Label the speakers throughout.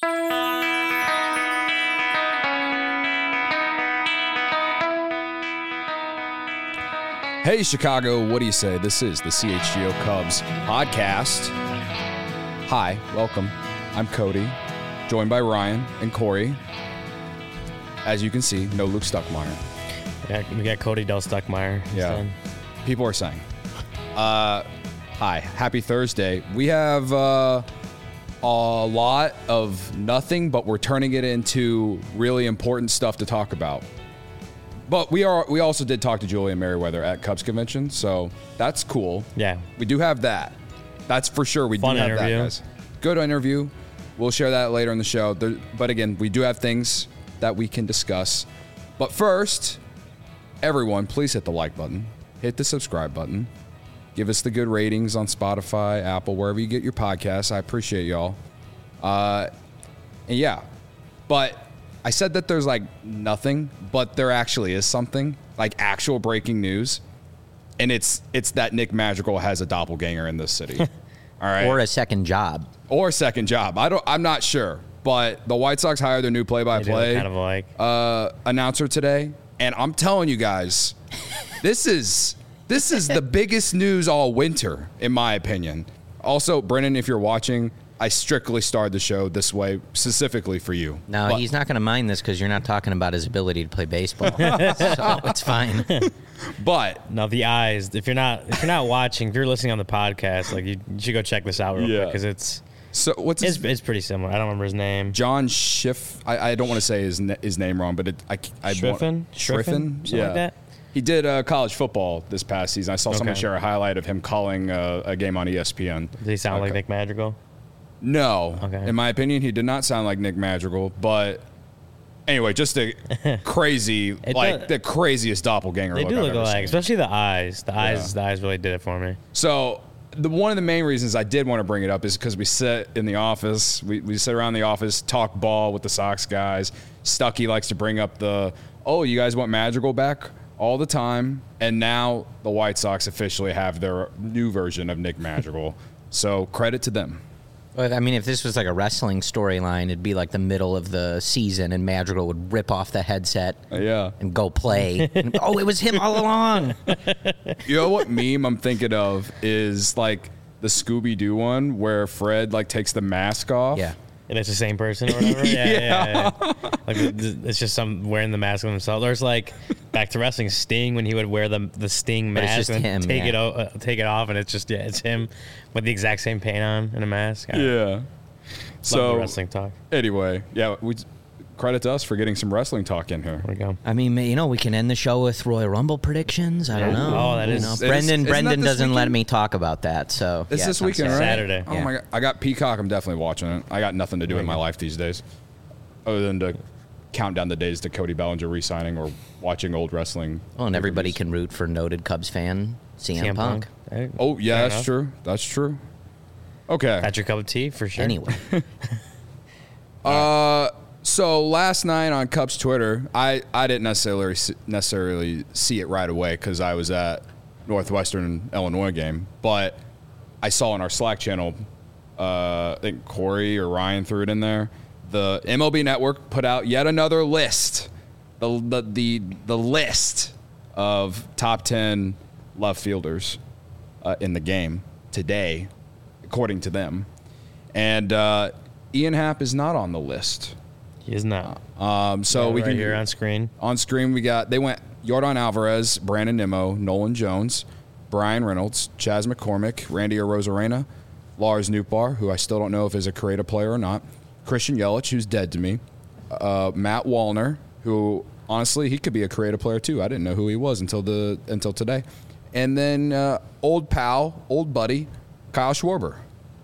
Speaker 1: Hey, Chicago, what do you say? This is the CHGO Cubs podcast. Hi, welcome. I'm Cody, joined by Ryan and Corey. As you can see, no Luke Stuckmeyer.
Speaker 2: We got Cody Del Stuckmeyer.
Speaker 1: Yeah, people are saying. Hi, happy Thursday. We have a lot of nothing, but we're turning it into really important stuff to talk about. But we also did talk to Julian Merriweather at Cubs Convention, so that's cool.
Speaker 2: Yeah.
Speaker 1: We do have that. That's for sure. We
Speaker 2: Fun
Speaker 1: do have
Speaker 2: interview.
Speaker 1: that, guys. Good interview. We'll share that later in the show. But again, we do have things that we can discuss. But first, everyone, please hit the like button. Hit the subscribe button. Give us the good ratings on Spotify, Apple, wherever you get your podcasts. I appreciate y'all. And yeah, but I said that there's like nothing, but there actually is something, like actual breaking news. And it's that Nick Madrigal has a doppelganger in this city. All right.
Speaker 3: Or a second job.
Speaker 1: I'm not sure. But the White Sox hired their new play-by-play
Speaker 2: Kind of like
Speaker 1: announcer today. And I'm telling you guys, this is the biggest news all winter, in my opinion. Also, Brennan, if you're watching, I strictly started the show this way specifically for you.
Speaker 3: No,
Speaker 1: But
Speaker 3: he's not going to mind this because you're not talking about his ability to play baseball. So it's fine.
Speaker 1: But
Speaker 2: no, the eyes. If you're not watching, if you're listening on the podcast, like you should go check this out real quick because it's pretty similar. I don't remember his name.
Speaker 1: John Schiff. I don't want to say his name wrong, but
Speaker 2: Schriffen?
Speaker 1: Something
Speaker 2: like that.
Speaker 1: He did college football this past season. I saw someone share a highlight of him calling a game on ESPN.
Speaker 2: Does he sound like Nick Madrigal?
Speaker 1: No.
Speaker 2: Okay.
Speaker 1: In my opinion, he did not sound like Nick Madrigal. But anyway, just a crazy, the craziest doppelganger.
Speaker 2: They do look alike, especially the eyes. The eyes really did it for me.
Speaker 1: So one of the main reasons I did want to bring it up is because we sit in the office. We sit around the office, talk ball with the Sox guys. Stuckey likes to bring up you guys want Madrigal back all the time. And now the White Sox officially have their new version of Nick Madrigal. So credit to them.
Speaker 3: I mean, if this was like a wrestling storyline, it'd be like the middle of the season and Madrigal would rip off the headset and go play. And, it was him all along.
Speaker 1: You know what meme I'm thinking of is like the Scooby-Doo one where Fred like takes the mask off.
Speaker 3: Yeah.
Speaker 2: And it's the same person or whatever? Yeah. Like, it's just some wearing the mask on themselves. There's like, back to wrestling, Sting, when he would wear the Sting mask and
Speaker 3: him,
Speaker 2: take it off, and it's just, it's him with the exact same paint on and a mask.
Speaker 1: Yeah.
Speaker 2: Love the wrestling talk.
Speaker 1: Anyway, credit to us for getting some wrestling talk in here.
Speaker 2: There we go.
Speaker 3: I mean, we can end the show with Royal Rumble predictions. I don't know.
Speaker 2: Oh, that is.
Speaker 3: Brendan doesn't
Speaker 1: weekend?
Speaker 3: let me talk about that. So
Speaker 1: It's this
Speaker 3: on
Speaker 1: weekend, right?
Speaker 2: Saturday.
Speaker 1: Oh my God. I got Peacock. I'm definitely watching it. I got nothing to do in my life these days other than to count down the days to Cody Bellinger re-signing or watching old wrestling.
Speaker 3: Well, and everybody can root for noted Cubs fan CM Punk.
Speaker 1: Oh, yeah, that's true. That's true. Okay.
Speaker 2: That's your cup of tea for sure.
Speaker 3: Anyway.
Speaker 1: So last night on Cubs Twitter, I didn't necessarily see it right away because I was at Northwestern Illinois game, but I saw in our Slack channel, I think Corey or Ryan threw it in there. The MLB Network put out yet another list, the list of top 10 left fielders in the game today, according to them, and Ian Happ is not on the list.
Speaker 2: He is not.
Speaker 1: So we
Speaker 2: right
Speaker 1: can
Speaker 2: here on screen.
Speaker 1: On screen, they went Yordan Alvarez, Brandon Nimmo, Nolan Jones, Brian Reynolds, Chas McCormick, Randy Arozarena, Lars Nootbaar, who I still don't know if is a creative player or not, Christian Yelich, who's dead to me, Matt Wallner, who honestly he could be a creative player too. I didn't know who he was until today, and then old pal, old buddy, Kyle Schwarber.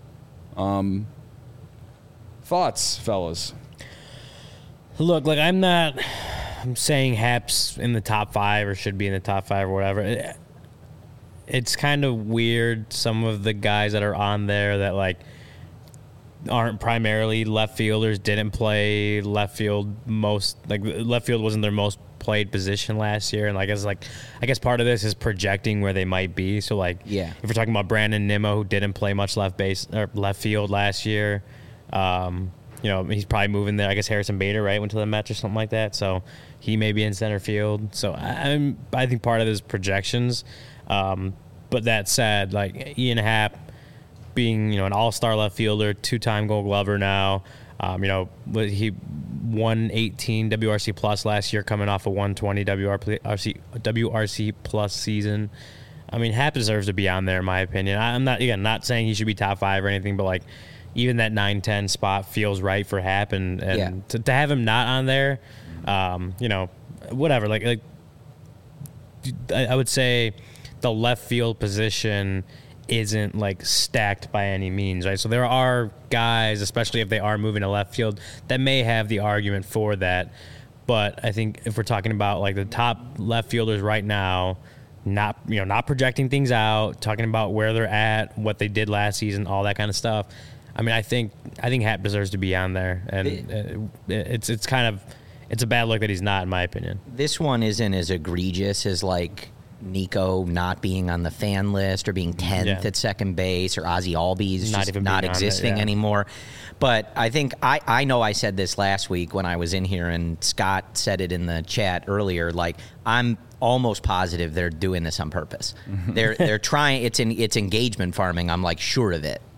Speaker 1: Thoughts, fellas?
Speaker 2: Look, like I'm saying Happ's in the top 5 or should be in the top 5 or whatever. It's kind of weird. Some of the guys that are on there that like aren't primarily left fielders didn't play left field left field wasn't their most played position last year, and I guess part of this is projecting where they might be. So if we're talking about Brandon Nimmo, who didn't play much left field last year, He's probably moving there. I guess Harrison Bader, right, went to the Mets or something like that. So he may be in center field. So I think part of this projections. But that said, like Ian Happ being, an all-star left fielder, 2-time Gold Glover now. He won 18 WRC plus last year, coming off a 120 WRC plus season. I mean, Happ deserves to be on there, in my opinion. I'm not saying he should be top 5 or anything, but like even that 9-10 spot feels right for Happ, and to have him not on there, whatever. Like I would say the left field position isn't like stacked by any means, right? So there are guys, especially if they are moving to left field, that may have the argument for that. But I think if we're talking about like the top left fielders right now, not projecting things out, talking about where they're at, what they did last season, all that kind of stuff. I mean, I think Happ deserves to be on there, and it's a bad look that he's not, in my opinion.
Speaker 3: This one isn't as egregious as like Nico not being on the fan list or being 10th at second base, or Ozzie Albies just not existing anymore. But I think I know I said this last week when I was in here, and Scott said it in the chat earlier. Like, I'm almost positive they're doing this on purpose. They're trying. It's engagement farming. I'm like sure of it.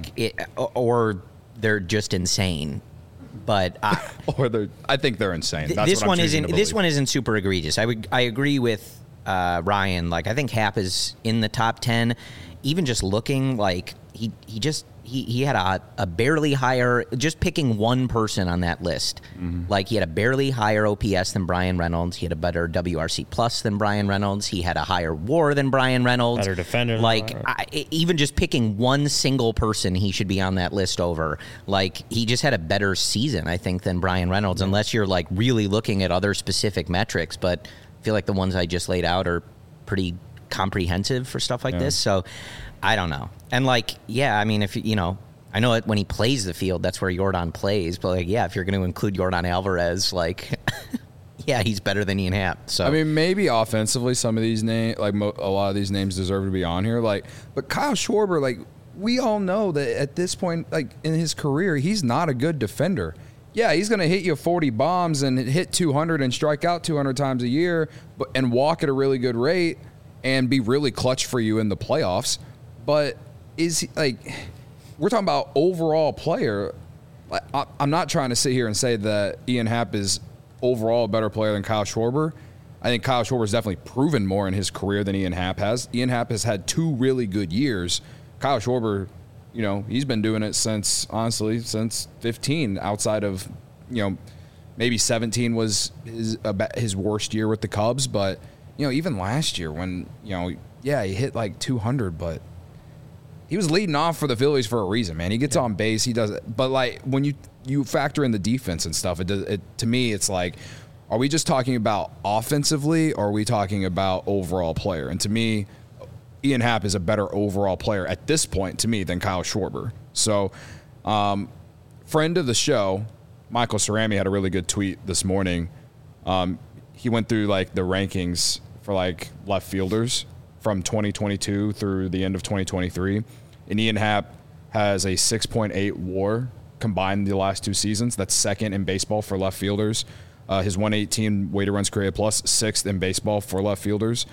Speaker 3: Or they're just insane. But
Speaker 1: I think they're insane.
Speaker 3: This one isn't super egregious. I agree with Ryan. Like, I think Happ is in the top 10. Even just looking, like he had a barely higher, just picking one person on that list. Mm-hmm. Like, he had a barely higher OPS than Brian Reynolds. He had a better WRC plus than Brian Reynolds. He had a higher WAR than Brian Reynolds.
Speaker 2: Better defender.
Speaker 3: Like, even just picking one single person, he should be on that list over. Like, he just had a better season, I think, than Brian Reynolds, unless you're like really looking at other specific metrics. But I feel like the ones I just laid out are pretty comprehensive for stuff like this. So I don't know. And like, I mean, if I know when he plays the field, that's where Yordan plays. But like, if you're going to include Yordan Alvarez, like, he's better than Ian Happ. So
Speaker 1: I mean, maybe offensively, some of these names, like a lot of these names, deserve to be on here. Like, but Kyle Schwarber, like, we all know that at this point, like in his career, he's not a good defender. Yeah, he's going to hit you 40 bombs and hit 200 and strike out 200 times a year, and walk at a really good rate and be really clutch for you in the playoffs. But is he, like, we're talking about overall player. I'm not trying to sit here and say that Ian Happ is overall a better player than Kyle Schwarber. I think Kyle Schwarber has definitely proven more in his career than Ian Happ has. Ian Happ has had 2 really good years. Kyle Schwarber, he's been doing it since 15, outside of, maybe 17 was his worst year with the Cubs. But, even last year when, he hit like 200, but he was leading off for the Phillies for a reason, man. He gets on base, he does it. But like, when you factor in the defense and stuff, to me, it's like, are we just talking about offensively, or are we talking about overall player? And to me, Ian Happ is a better overall player at this point to me than Kyle Schwarber. So, friend of the show, Michael Cerami, had a really good tweet this morning. He went through like the rankings for like left fielders from 2022 through the end of 2023. And Ian Happ has a 6.8 WAR combined the last 2 seasons. That's second in baseball for left fielders. His 118 weighted runs created plus, 6th in baseball for left fielders.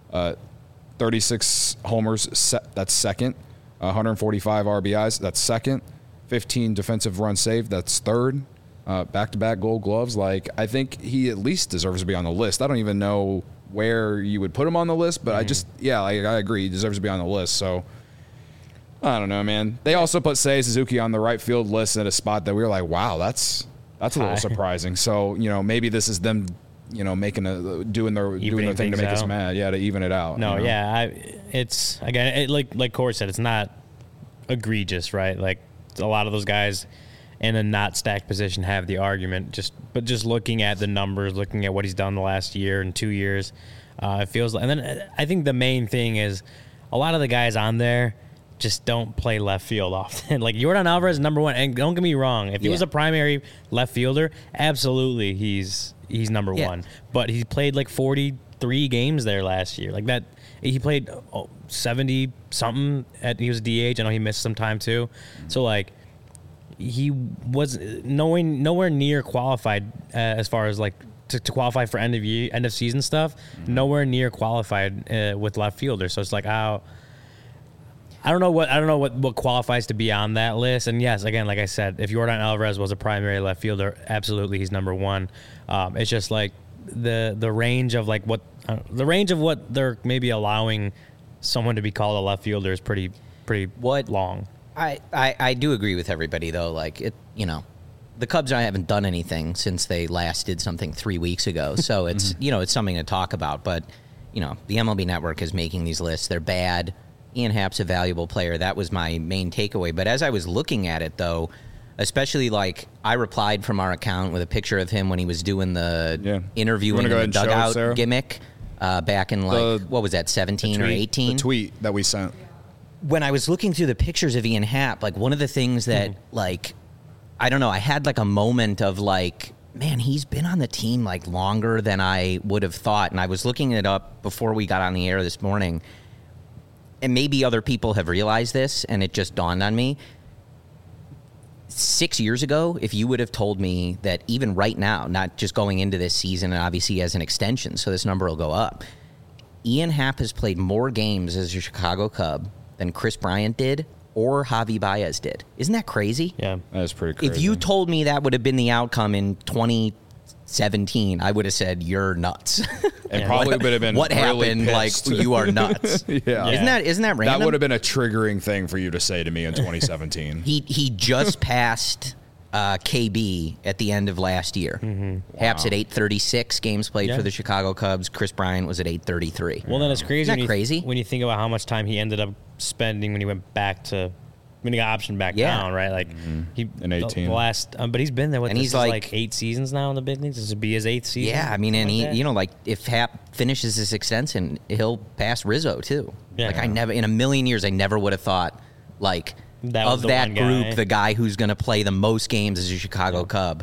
Speaker 1: 36 homers, that's second. 145 RBIs, that's second. 15 defensive runs saved, that's third. Back-to-back Gold Gloves. Like, I think he at least deserves to be on the list. I don't even know where you would put him on the list, but I agree. He deserves to be on the list. So, I don't know, man. They also put Seiya Suzuki on the right field list at a spot that we were like, wow, that's a little surprising. So, maybe this is them, doing their thing to make us mad. Yeah, to even it out.
Speaker 2: No, it's, again, like Corey said, it's not egregious, right? Like, a lot of those guys in a not stacked position have the argument. But just looking at the numbers, looking at what he's done the last year and 2 years, it feels like. And then I think the main thing is a lot of the guys on there just don't play left field often. Like, Yordan Alvarez is number 1, and don't get me wrong, if he was a primary left fielder, absolutely he's number 1. But he played like 43 games there last year. Like that, he played 70 something. He was DH. I know he missed some time too. So like, he was nowhere near qualified as far as like to qualify for end of season stuff. Nowhere near qualified with left fielder. So it's like, I don't know what qualifies to be on that list. And yes, again, like I said, if Yordan Alvarez was a primary left fielder, absolutely he's number one. It's just like the range of like what they're maybe allowing someone to be called a left fielder is pretty long.
Speaker 3: I do agree with everybody though. Like the Cubs haven't done anything since they last did something 3 weeks ago. So it's it's something to talk about. But the MLB Network is making these lists. They're bad. Ian Happ's a valuable player. That was my main takeaway. But as I was looking at it, though, especially like I replied from our account with a picture of him when he was doing the interviewing in the dugout gimmick back in what was that, 17 or 18?
Speaker 1: The tweet that we sent.
Speaker 3: When I was looking through the pictures of Ian Happ, like one of the things that like, I don't know, I had like a moment of like, man, he's been on the team like longer than I would have thought. And I was looking it up before we got on the air this morning. And maybe other people have realized this, and it just dawned on me. 6 years ago, if you would have told me that even right now, not just going into this season, and obviously as an extension, so this number will go up, Ian Happ has played more games as a Chicago Cub than Chris Bryant did or Javi Baez did. Isn't that crazy?
Speaker 2: Yeah,
Speaker 1: that is pretty crazy.
Speaker 3: If you told me that would have been the outcome in 2017, I would have said you're nuts.
Speaker 1: And probably would have been
Speaker 3: what
Speaker 1: really
Speaker 3: happened.
Speaker 1: Pissed.
Speaker 3: Like you are nuts.
Speaker 1: Yeah.
Speaker 3: Isn't that random?
Speaker 1: That would have been a triggering thing for you to say to me in 2017.
Speaker 3: He just passed KB at the end of last year. Wow. Happ's at 836 games played for the Chicago Cubs. Chris Bryant was at 833.
Speaker 2: Well, then it's crazy.
Speaker 3: Isn't that crazy?
Speaker 2: When you think about how much time he ended up spending when he went back to. When he got optioned back down, right? Like he
Speaker 1: in 18,
Speaker 2: the last, but he's been there. And he's like 8 seasons now in the big leagues. This will be his 8th season.
Speaker 3: Yeah, I mean, and he, like if Happ finishes his extension, he'll pass Rizzo too. Yeah. Like I never, in a million years, I never would have thought like of that group, the guy who's going to play the most games as a Chicago Cub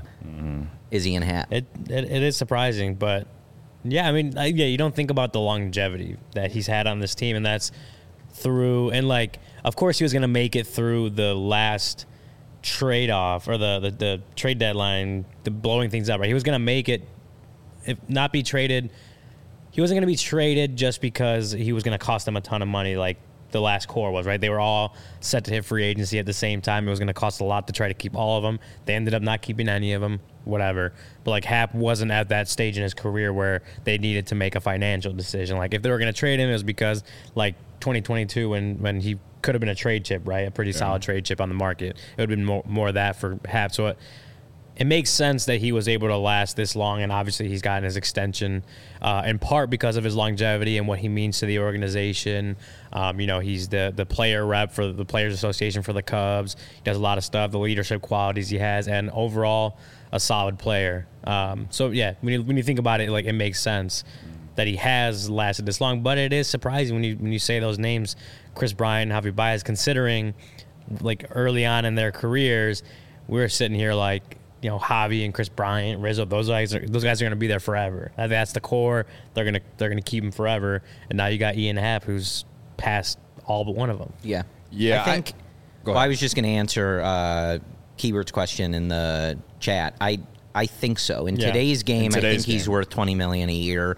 Speaker 3: is Ian Happ.
Speaker 2: It is surprising, but yeah, I mean, you don't think about the longevity that he's had on this team, and that's through and like. Of course, he was going to make it through the last trade-off or the trade deadline, the blowing things up, right? He was going to make it, if not be traded. He wasn't going to be traded just because he was going to cost them a ton of money like the last core was, right? They were all set to hit free agency at the same time. It was going to cost a lot to try to keep all of them. They ended up not keeping any of them, whatever. But, like, Happ wasn't at that stage in his career where they needed to make a financial decision. Like, if they were going to trade him, it was because, like, 2022 when he could have been a trade chip, right? A pretty solid trade chip on the market. It would have been more of that for Happ. So it makes sense that he was able to last this long, and obviously he's gotten his extension in part because of his longevity and what he means to the organization. He's the player rep for the Players Association for the Cubs. He does a lot of stuff, the leadership qualities he has, and overall a solid player. So, yeah, when you think about it, like it makes sense that he has lasted this long. But it is surprising when you say those names, Chris Bryant and Javi Baez, considering like early on in their careers, we're sitting here like, Javi and Chris Bryant, Rizzo, those guys are going to be there forever. That's the core. They're going to keep him forever. And now you got Ian Happ, who's passed all but one of them.
Speaker 3: Yeah.
Speaker 1: Yeah.
Speaker 3: I think. I was just going to answer Keywords question in the chat. I think so. In today's game, I think he's worth $20 million a year.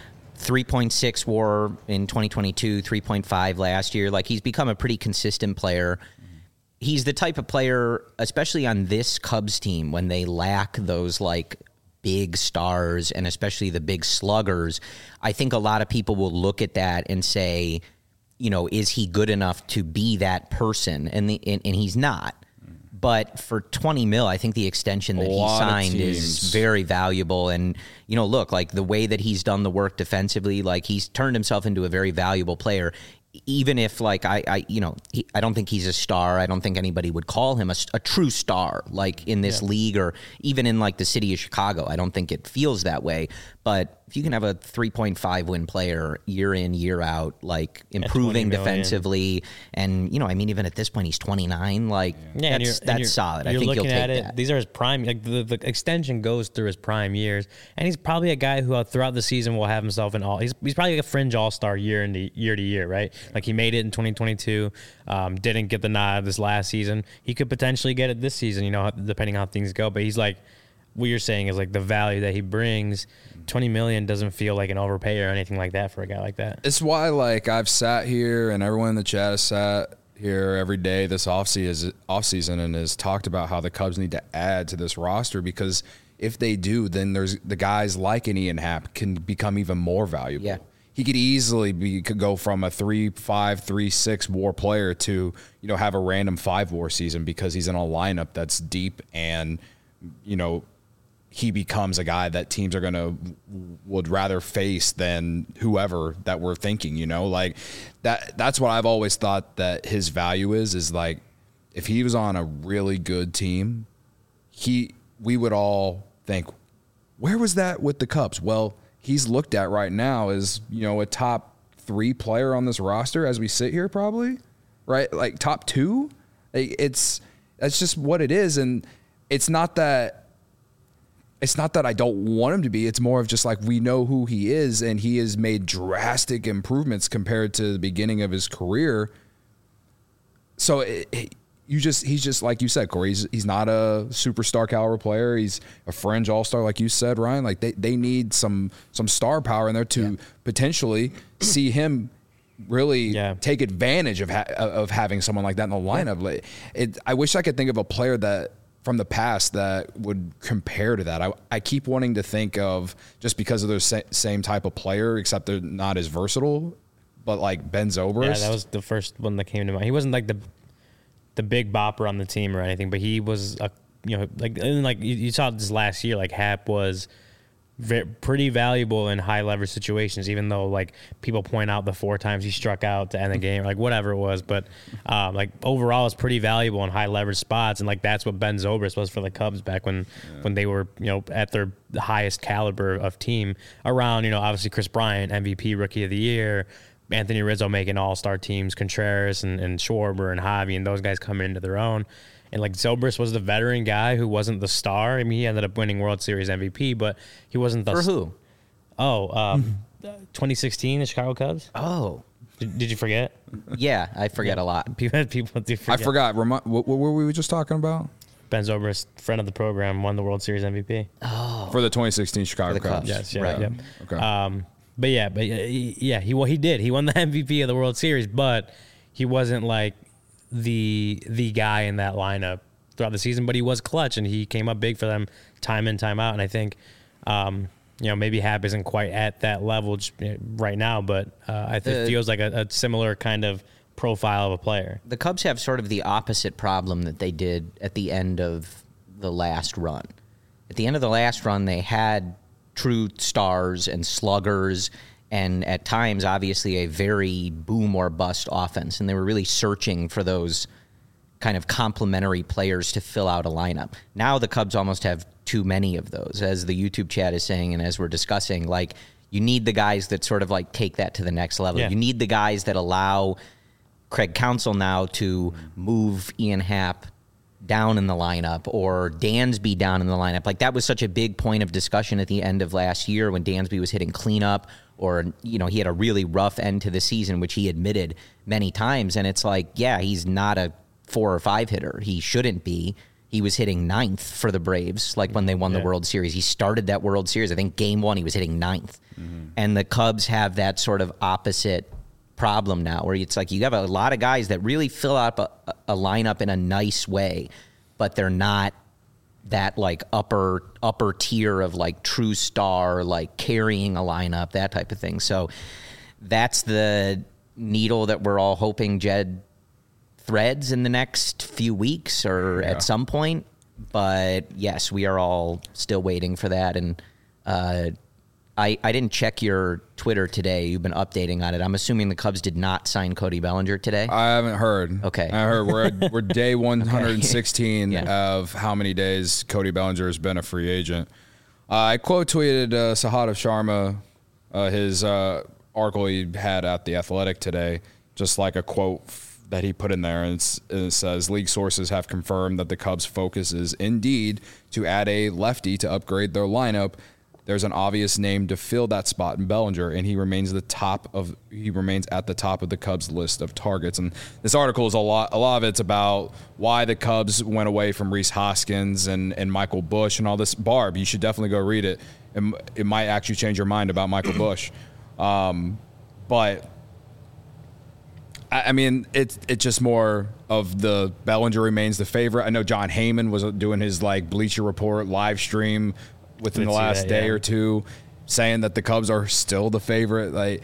Speaker 3: 3.6 WAR in 2022, 3.5 last year. Like he's become a pretty consistent player. He's the type of player, especially on this Cubs team, when they lack those like big stars and especially the big sluggers. I think a lot of people will look at that and say, is he good enough to be that person? And he's not. But for $20 million, I think the extension that he signed is very valuable. And, look, like the way that he's done the work defensively, like he's turned himself into a very valuable player. Even if, like, I don't think he's a star. I don't think anybody would call him a true star, like in this league or even in like the city of Chicago. I don't think it feels that way. But if you can have a 3.5 win player year in, year out, like improving defensively, and even at this point he's 29, like that's solid. I think you'll take that.
Speaker 2: These are his prime. Like the extension goes through his prime years, and he's probably a guy who throughout the season will have himself in all. He's probably a fringe all-star year to year, right? Like, he made it in 2022, didn't get the nod this last season. He could potentially get it this season, you know, depending on how things go. But he's like, what you're saying is like the value that he brings. $20 million doesn't feel like an overpay or anything like that for a guy like that.
Speaker 1: It's why, like, I've sat here and everyone in the chat has sat here every day this offseason and has talked about how the Cubs need to add to this roster, because if they do, then there's the guys like an Ian Happ can become even more valuable.
Speaker 3: Yeah.
Speaker 1: He could easily could go from a 3-5, 3-6 WAR player to, you know, have a random 5 WAR season because he's in a lineup that's deep, and, you know, he becomes a guy that teams would rather face than whoever that we're thinking, you know, like that's what I've always thought that his value is like, if he was on a really good team, we would all think, where was that with the Cubs? Well, he's looked at right now as, you know, a top 3 player on this roster as we sit here, probably, right? Like top 2. That's just what it is. And it's not that I don't want him to be. It's more of just like, we know who he is, and he has made drastic improvements compared to the beginning of his career. So he's just like you said, Corey. He's not a superstar caliber player. He's a fringe all-star, like you said, Ryan. Like they need some star power in there to potentially see him really take advantage of having someone like that in the lineup. I wish I could think of a player that from the past that would compare to that. I keep wanting to think of, just because of their same type of player, except they're not as versatile, but like Ben Zobrist.
Speaker 2: Yeah, that was the first one that came to mind. He wasn't like the big bopper on the team or anything, but he was like you saw this last year, like Happ was pretty valuable in high leverage situations, even though like people point out the 4 times he struck out to end the game, like whatever it was, but like overall it's pretty valuable in high leverage spots, and like that's what Ben Zobrist was for the Cubs back when they were, you know, at their highest caliber of team, around, you know, obviously Chris Bryant, MVP Rookie of the Year, Anthony Rizzo making all-star teams, Contreras and Schwarber and Javi and those guys coming into their own. And like Zobrist was the veteran guy who wasn't the star. I mean, he ended up winning World Series MVP, but he wasn't the
Speaker 3: for who?
Speaker 2: 2016, the Chicago Cubs.
Speaker 3: Oh,
Speaker 2: did you forget?
Speaker 3: Yeah, I forget a lot.
Speaker 2: People do forget.
Speaker 1: I forgot. What were we just talking about?
Speaker 2: Ben Zobrist, friend of the program, won the World Series MVP.
Speaker 3: Oh,
Speaker 1: for the 2016 Chicago Cubs.
Speaker 2: Yes, yeah,
Speaker 3: right.
Speaker 2: Yep.
Speaker 1: Okay.
Speaker 2: He did. He won the MVP of the World Series, but he wasn't like the guy in that lineup throughout the season, but he was clutch, and he came up big for them time in, time out. And I think, you know, maybe Happ isn't quite at that level just right now, but I think it feels like a similar kind of profile of a player.
Speaker 3: The Cubs have sort of the opposite problem that they did at the end of the last run. At the end of the last run, they had true stars and sluggers, and at times, obviously, a very boom or bust offense. And they were really searching for those kind of complementary players to fill out a lineup. Now the Cubs almost have too many of those, as the YouTube chat is saying, and as we're discussing. Like, you need the guys that sort of like take that to the next level. Yeah. You need the guys that allow Craig Counsell now to move Ian Happ down in the lineup, or Dansby down in the lineup. Like, that was such a big point of discussion at the end of last year when Dansby was hitting cleanup, or, you know, he had a really rough end to the season, which he admitted many times. And it's like, yeah, he's not a 4 or 5 hitter. He shouldn't be. He was hitting 9th for the Braves, like when they won the World Series. He started that World Series. I think game 1 he was hitting 9th. Mm-hmm. And the Cubs have that sort of opposite problem now, where it's like you have a lot of guys that really fill out a lineup in a nice way, but they're not that like upper tier of like true star, like carrying a lineup, that type of thing. So that's the needle that we're all hoping Jed threads in the next few weeks or at some point. But yes, we are all still waiting for that. And I didn't check your Twitter today. You've been updating on it. I'm assuming the Cubs did not sign Cody Bellinger today.
Speaker 1: I haven't heard.
Speaker 3: Okay.
Speaker 1: I heard we're day 116 of how many days Cody Bellinger has been a free agent. I quote tweeted Sahadev Sharma, his article he had at The Athletic today, just like a quote that he put in there, and it says, league sources have confirmed that the Cubs' focus is indeed to add a lefty to upgrade their lineup. there's an obvious name to fill that spot in Bellinger, and he remains at the top of the Cubs list of targets. And this article is a lot of it's about why the Cubs went away from Rhys Hoskins and Michael Busch and all this. Barb, you should definitely go read it. It might actually change your mind about Michael Busch. But I mean, it's just more of the Bellinger remains the favorite. I know John Heyman was doing his like Bleacher Report live stream within the last day or two, saying that the Cubs are still the favorite. Like,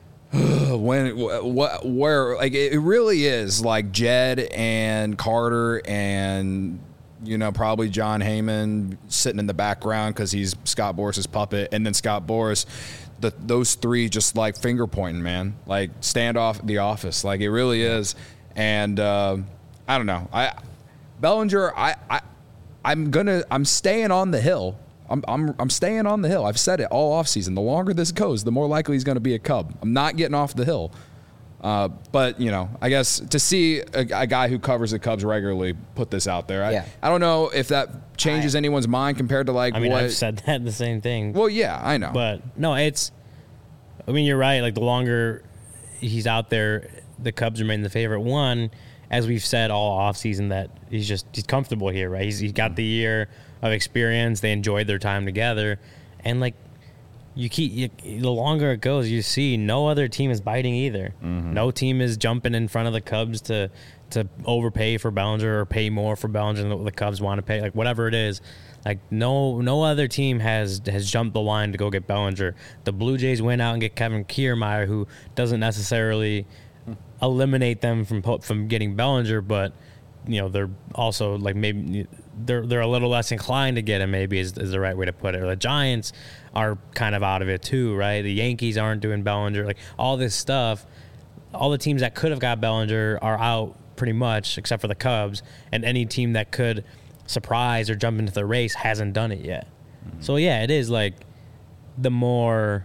Speaker 1: where like it really is like Jed and Carter and probably John Heyman sitting in the background because he's Scott Boras's puppet, and then Scott Boras. Those three just like finger pointing, man, like stand off the office, like it really is. And I don't know, Bellinger, I'm staying on the hill. I'm staying on the hill. I've said it all offseason. The longer this goes, the more likely he's going to be a Cub. I'm not getting off the hill. But I guess to see a guy who covers the Cubs regularly put this out there, I don't know if that changes anyone's mind compared to like. I mean, I've
Speaker 2: said that the same thing.
Speaker 1: Well, yeah, I know,
Speaker 2: but no, you're right. Like the longer he's out there, the Cubs remain the favorite. One, as we've said all offseason, that he's comfortable here, right? He's got the year of experience. They enjoyed their time together, and like. The longer it goes, you see no other team is biting either. Mm-hmm. No team is jumping in front of the Cubs to overpay for Bellinger or pay more for Bellinger than the Cubs want to pay. Like whatever it is, like no other team has jumped the line to go get Bellinger. The Blue Jays went out and get Kevin Kiermaier, who doesn't necessarily eliminate them from getting Bellinger, but they're also like maybe they're a little less inclined to get him, maybe is the right way to put it. Or the Giants are kind of out of it too, right? The Yankees aren't doing Bellinger. Like all this stuff, all the teams that could have got Bellinger are out pretty much, except for the Cubs, and any team that could surprise or jump into the race hasn't done it yet. Mm-hmm. So yeah, it is like the more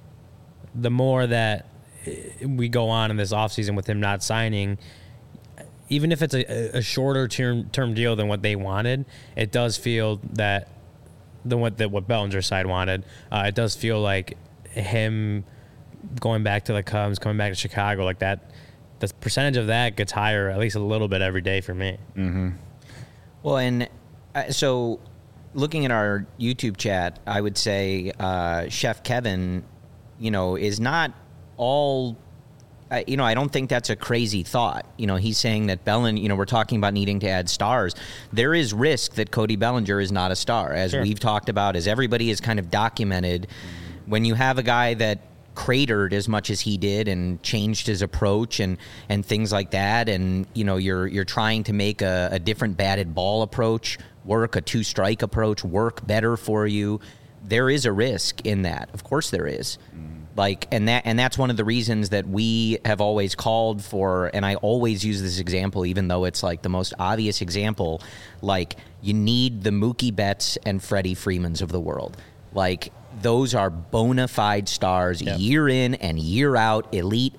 Speaker 2: that we go on in this offseason with him not signing, even if it's a shorter term deal than what they wanted, it does feel that what Bellinger's side wanted. It does feel like him going back to the Cubs, coming back to Chicago, like that. The percentage of that gets higher at least a little bit every day for me.
Speaker 3: Mm-hmm. Well, and so looking at our YouTube chat, I would say Chef Kevin, is not all. I don't think that's a crazy thought. He's saying that Bellinger, we're talking about needing to add stars. There is risk that Cody Bellinger is not a star, as we've talked about, as everybody has kind of documented. When you have a guy that cratered as much as he did and changed his approach and things like that, and you're trying to make a different batted ball approach work, a 2-strike approach work better for you, there is a risk in that. Of course there is. And that's one of the reasons that we have always called for, and I always use this example, even though it's like the most obvious example, like you need the Mookie Betts and Freddie Freemans of the world. Like those are bona fide stars, year in and year out, elite,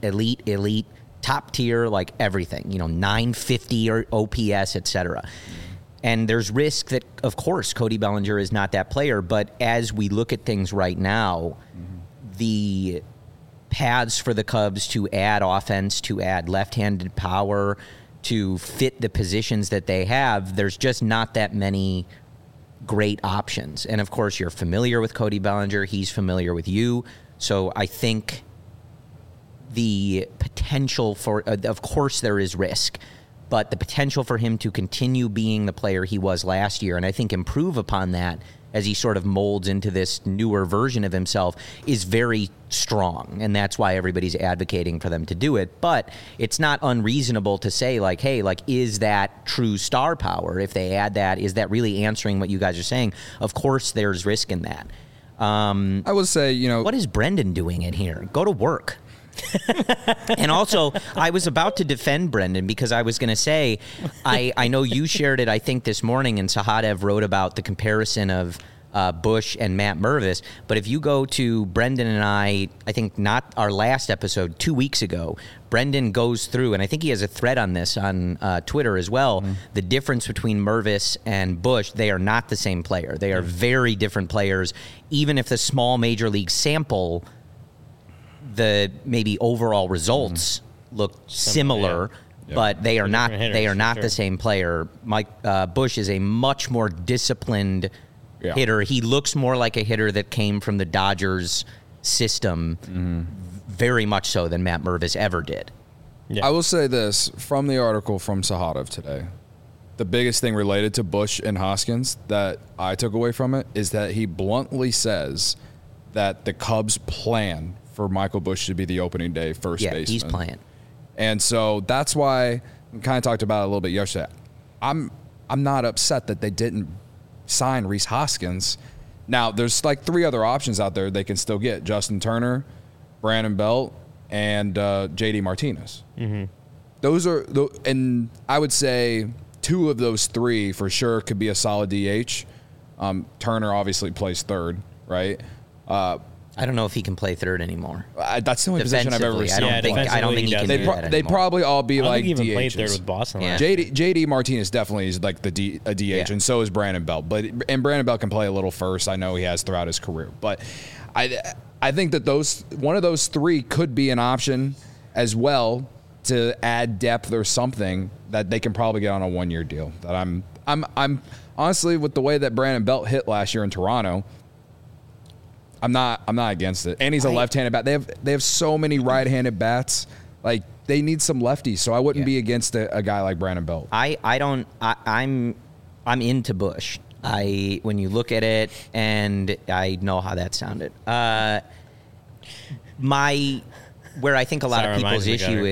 Speaker 3: top tier, like everything, 950 or OPS, etc. And there's risk that, of course, Cody Bellinger is not that player, but as we look at things right now, the paths for the Cubs to add offense, to add left-handed power, to fit the positions that they have, there's just not that many great options. And, of course, you're familiar with Cody Bellinger. He's familiar with you. So I think the potential for, of course, there is risk, but the potential for him to continue being the player he was last year, and I think improve upon that as he sort of molds into this newer version of himself, is very strong. And that's why everybody's advocating for them to do it. But it's not unreasonable to say, like, hey, like, is that true star power? If they add that, is that really answering what you guys are saying? Of course there's risk in that.
Speaker 1: I would say,
Speaker 3: what is Brendan doing in here? Go to work. And also, I was about to defend Brendan because I was going to say, I know you shared it, I think, this morning, and Sahadev wrote about the comparison of Bush and Matt Mervis. But if you go to Brendan and I think not our last episode, 2 weeks ago, Brendan goes through, and I think he has a thread on this on Twitter as well, the difference between Mervis and Bush. They are not the same player. They are very different players. Even if the small major league sample, the maybe overall results look similar. But they are not. They are not the same player. Mike Bush is a much more disciplined hitter. He looks more like a hitter that came from the Dodgers system, very much so than Matt Mervis ever did.
Speaker 1: Yeah. I will say this from the article from Sahadev today. The biggest thing related to Bush and Hoskins that I took away from it is that he bluntly says that the Cubs plan for Michael Bush to be the opening day first baseman.
Speaker 3: Yeah, he's playing.
Speaker 1: And so that's why we kind of talked about it a little bit yesterday. I'm not upset that they didn't sign Rhys Hoskins. Now, there's like 3 other options out there they can still get: Justin Turner, Brandon Belt, and JD Martinez. Those are, and I would say 2 of those 3 for sure could be a solid DH. Turner obviously plays third, right?
Speaker 3: I don't know if he can play third anymore.
Speaker 1: That's the only position I've ever seen.
Speaker 3: I don't think he can do that anymore.
Speaker 1: They'd probably all be like DHs.
Speaker 2: He played third with Boston.
Speaker 1: Yeah. JD Martinez definitely is like a DH, and so is Brandon Belt. And Brandon Belt can play a little first. I know he has throughout his career. But I think that one of those 3 could be an option as well to add depth or something that they can probably get on a 1-year deal. That I'm honestly, with the way that Brandon Belt hit last year in Toronto, I'm not against it. And he's a left-handed bat. They have so many right-handed bats. Like, they need some lefties. So I wouldn't be against a guy like Brandon Belt.
Speaker 3: I'm into Bush. When you look at it, and I know how that sounded. Where I think a lot of people's issue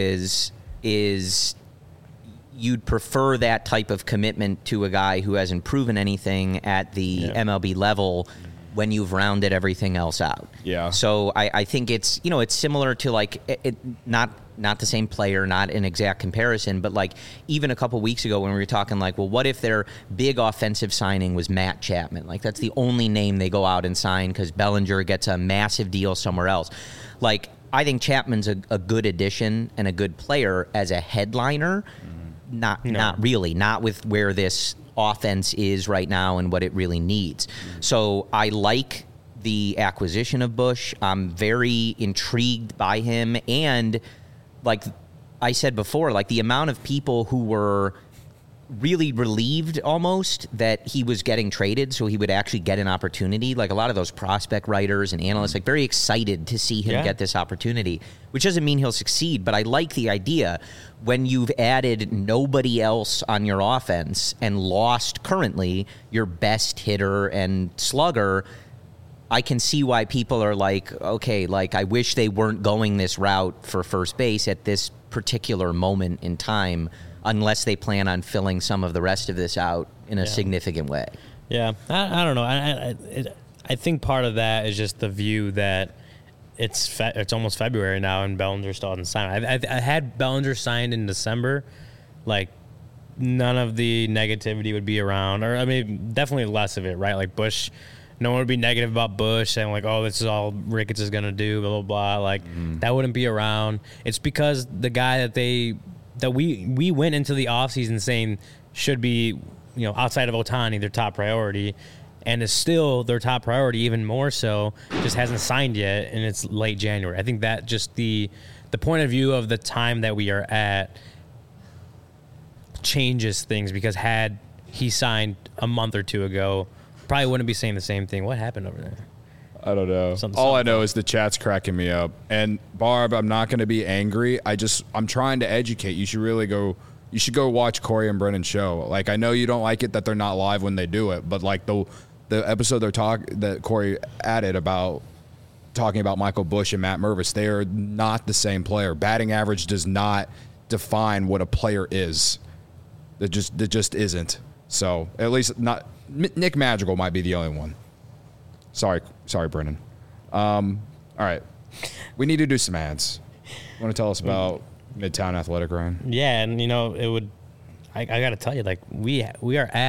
Speaker 3: is you'd prefer that type of commitment to a guy who hasn't proven anything at the MLB level when you've rounded everything else out.
Speaker 1: Yeah.
Speaker 3: So I think it's similar to like not the same player, not an exact comparison, but like even a couple weeks ago when we were talking like, well, what if their big offensive signing was Matt Chapman? Like that's the only name they go out and sign because Bellinger gets a massive deal somewhere else. Like I think Chapman's a good addition and a good player as a headliner. Not really, not with where this offense is right now and what it really needs. So I like the acquisition of Bush. I'm very intrigued by him. And like I said before, like the amount of people who were really relieved almost that he was getting traded so he would actually get an opportunity. Like a lot of those prospect writers and analysts, like very excited to see him get this opportunity, which doesn't mean he'll succeed. But I like the idea when you've added nobody else on your offense and lost currently your best hitter and slugger. I can see why people are like, okay, like I wish they weren't going this route for first base at this particular moment in time, unless they plan on filling some of the rest of this out in a significant way.
Speaker 2: Yeah, I don't know. I think part of that is just the view that it's almost February now and Bellinger still hasn't signed. I had Bellinger signed in December, like none of the negativity would be around, or I mean, definitely less of it, right? Like Bush, no one would be negative about Bush saying like, oh, this is all Ricketts is gonna do, blah blah blah. Like that wouldn't be around. It's because the guy that we went into the offseason saying should be, outside of Ohtani, their top priority, and is still their top priority, even more so, just hasn't signed yet, and it's late January. I think that just the point of view of the time that we are at changes things, because had he signed a month or 2 ago, probably wouldn't be saying the same thing. What happened over there?
Speaker 1: I don't know. All I know is the chat's cracking me up. And Barb, I'm not going to be angry. I'm trying to educate. You should go watch Corey and Brennan's show. Like, I know you don't like it that they're not live when they do it, but like the episode that Corey added about talking about Michael Bush and Matt Mervis, they are not the same player. Batting average does not define what a player is. It just isn't. So at least not. Nick Madrigal might be the only one. Sorry, Brennan. All right. We need to do some ads. You want to tell us about Midtown Athletic, Ryan?
Speaker 2: Yeah, and it would. I got to tell you, like we are at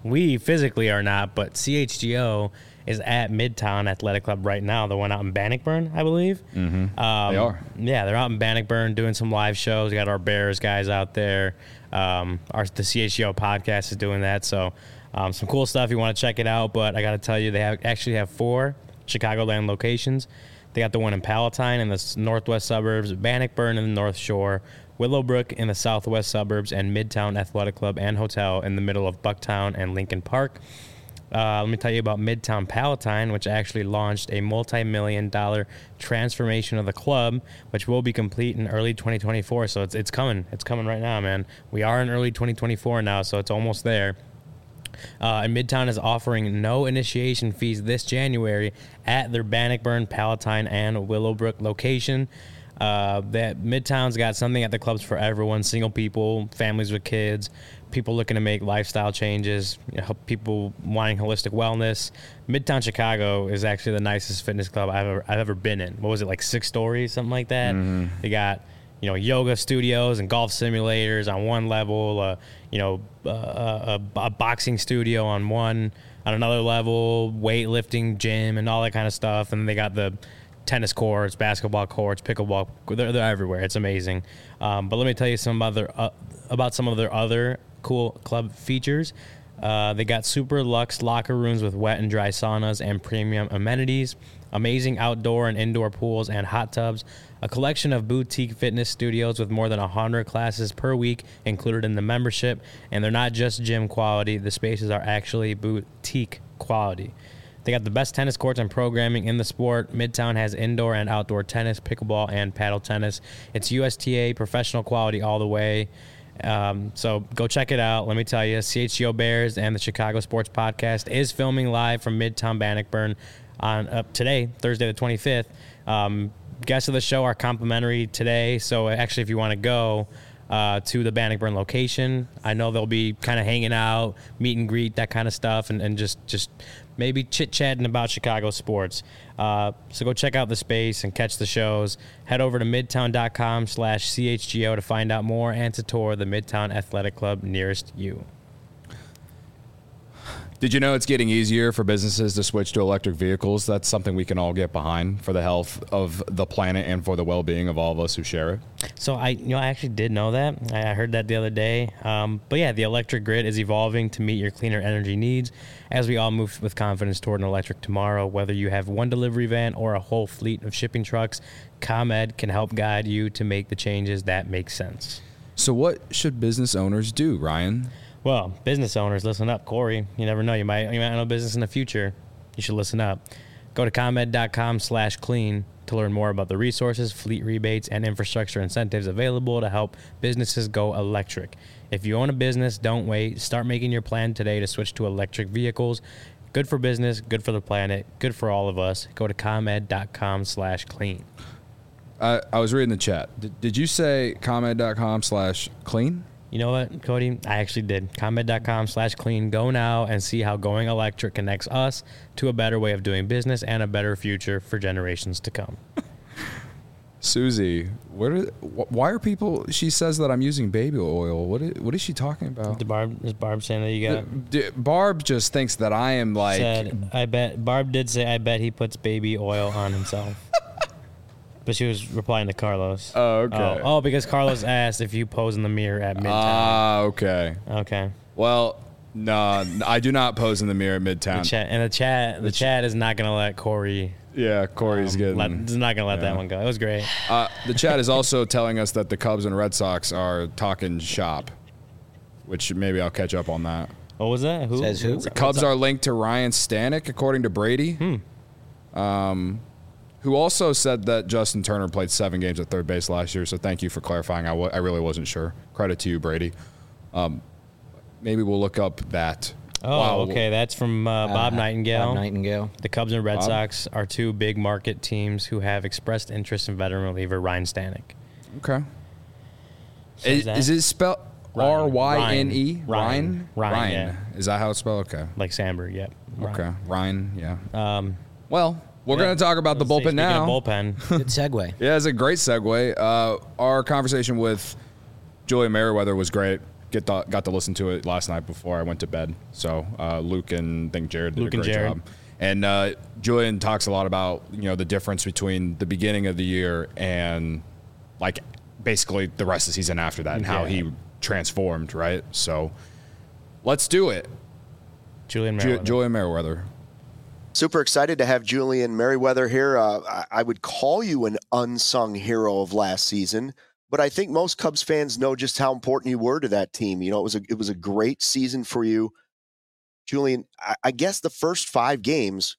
Speaker 2: we physically are not, but CHGO is at Midtown Athletic Club right now. The one out in Bannockburn, I believe.
Speaker 1: Mm-hmm. They are.
Speaker 2: Yeah, they're out in Bannockburn doing some live shows. We got our Bears guys out there. The CHGO podcast is doing that. So some cool stuff. You want to check it out. But I got to tell you, they actually have 4 Chicagoland locations. They got the one in Palatine in the northwest suburbs, Bannockburn in the North Shore, Willowbrook in the southwest suburbs, and Midtown Athletic Club and Hotel in the middle of Bucktown and Lincoln Park. Let me tell you about Midtown Palatine, which actually launched a multi-million-dollar transformation of the club, which will be complete in early 2024. So it's coming. It's coming right now, man. We are in early 2024 now, so it's almost there. And Midtown is offering no initiation fees this January at their Bannockburn, Palatine, and Willowbrook location. That Midtown's got something at the clubs for everyone: single people, families with kids, people looking to make lifestyle changes, people wanting holistic wellness. Midtown Chicago is actually the nicest fitness club I've ever been in. What was it, like 6 stories, something like that? Mm-hmm. They got yoga studios and golf simulators on one level, a boxing studio on another level, weightlifting gym and all that kind of stuff. And they got the tennis courts, basketball courts, pickleball. They're everywhere. It's amazing. But let me tell you about some of their other cool club features. They got super luxe locker rooms with wet and dry saunas and premium amenities, amazing outdoor and indoor pools and hot tubs, a collection of boutique fitness studios with more than 100 classes per week included in the membership. And they're not just gym quality. The spaces are actually boutique quality. They got the best tennis courts and programming in the sport. Midtown has indoor and outdoor tennis, pickleball, and paddle tennis. It's USTA professional quality all the way. So go check it out. Let me tell you, CHGO Bears and the Chicago Sports Podcast is filming live from Midtown Bannockburn on today, Thursday the 25th. Guests of the show are complimentary today. So actually, if you want to go to the Bannockburn location, I know they'll be kind of hanging out, meet and greet, that kind of stuff, and just maybe chit-chatting about Chicago sports. So go check out the space and catch the shows. Head over to midtown.com/CHGO to find out more and to tour the Midtown Athletic Club nearest you.
Speaker 1: Did you know it's getting easier for businesses to switch to electric vehicles? That's something we can all get behind for the health of the planet and for the well-being of all of us who share it.
Speaker 2: So I actually did know that. I heard that the other day. But yeah, the electric grid is evolving to meet your cleaner energy needs as we all move with confidence toward an electric tomorrow. Whether you have one delivery van or a whole fleet of shipping trucks, ComEd can help guide you to make the changes that make sense.
Speaker 1: So what should business owners do, Ryan?
Speaker 2: Well, business owners, listen up. Corey, you never know. You might own a business in the future. You should listen up. Go to ComEd.com/clean to learn more about the resources, fleet rebates, and infrastructure incentives available to help businesses go electric. If you own a business, don't wait. Start making your plan today to switch to electric vehicles. Good for business, good for the planet, good for all of us. Go to ComEd.com/clean.
Speaker 1: I was reading the chat. Did you say ComEd.com/clean?
Speaker 2: You know what, Cody? I actually did. ComEd.com/clean. Go now and see how going electric connects us to a better way of doing business and a better future for generations to come.
Speaker 1: Susie, why are people? She says that I'm using baby oil. What is she talking about?
Speaker 2: Is Barb saying that you got?
Speaker 1: Barb just thinks that I am like.
Speaker 2: Barb did say, I bet he puts baby oil on himself. But she was replying to Carlos.
Speaker 1: Oh, okay.
Speaker 2: Oh, because Carlos asked if you pose in the mirror at Midtown.
Speaker 1: Okay.
Speaker 2: Okay.
Speaker 1: Well, no, I do not pose in the mirror at Midtown.
Speaker 2: The chat is not going to let Corey.
Speaker 1: Yeah, Corey's getting.
Speaker 2: Is not going to let that one go. It was great.
Speaker 1: The chat is also telling us that the Cubs and Red Sox are talking shop, which maybe I'll catch up on that.
Speaker 2: What was that? Who?
Speaker 3: Says who?
Speaker 1: The Cubs are linked to Ryan Stanek, according to Brady. Who also said that Justin Turner played 7 games at third base last year. So thank you for clarifying. I really wasn't sure. Credit to you, Brady. Maybe we'll look up that.
Speaker 2: Oh, wow. Okay. That's from Bob Nightingale.
Speaker 3: Bob Nightingale.
Speaker 2: The Cubs and Red Sox are 2 big market teams who have expressed interest in veteran reliever Ryan Stanek.
Speaker 1: Okay. Is it spelled R-Y-N-E?
Speaker 2: Ryan.
Speaker 1: Ryan. Yeah. Is that how it's spelled? Okay.
Speaker 2: Like Sandberg, yep.
Speaker 1: Okay. Ryan, yeah. Well, we're going to talk about the bullpen now.
Speaker 2: Bullpen.
Speaker 3: Good segue.
Speaker 1: Yeah, it's a great segue. Our conversation with Julian Merriweather was great. got to listen to it last night before I went to bed. So Luke and I think Jared did a great job. And Julian talks a lot about, you know, the difference between the beginning of the year and like basically the rest of the season after that and how he transformed, right? So let's do it.
Speaker 2: Julian
Speaker 1: Merriweather.
Speaker 4: Super excited to have Julian Merriweather here. I would call you an unsung hero of last season, but I think most Cubs fans know just how important you were to that team. You know, it was a great season for you. Julian, I guess the first 5 games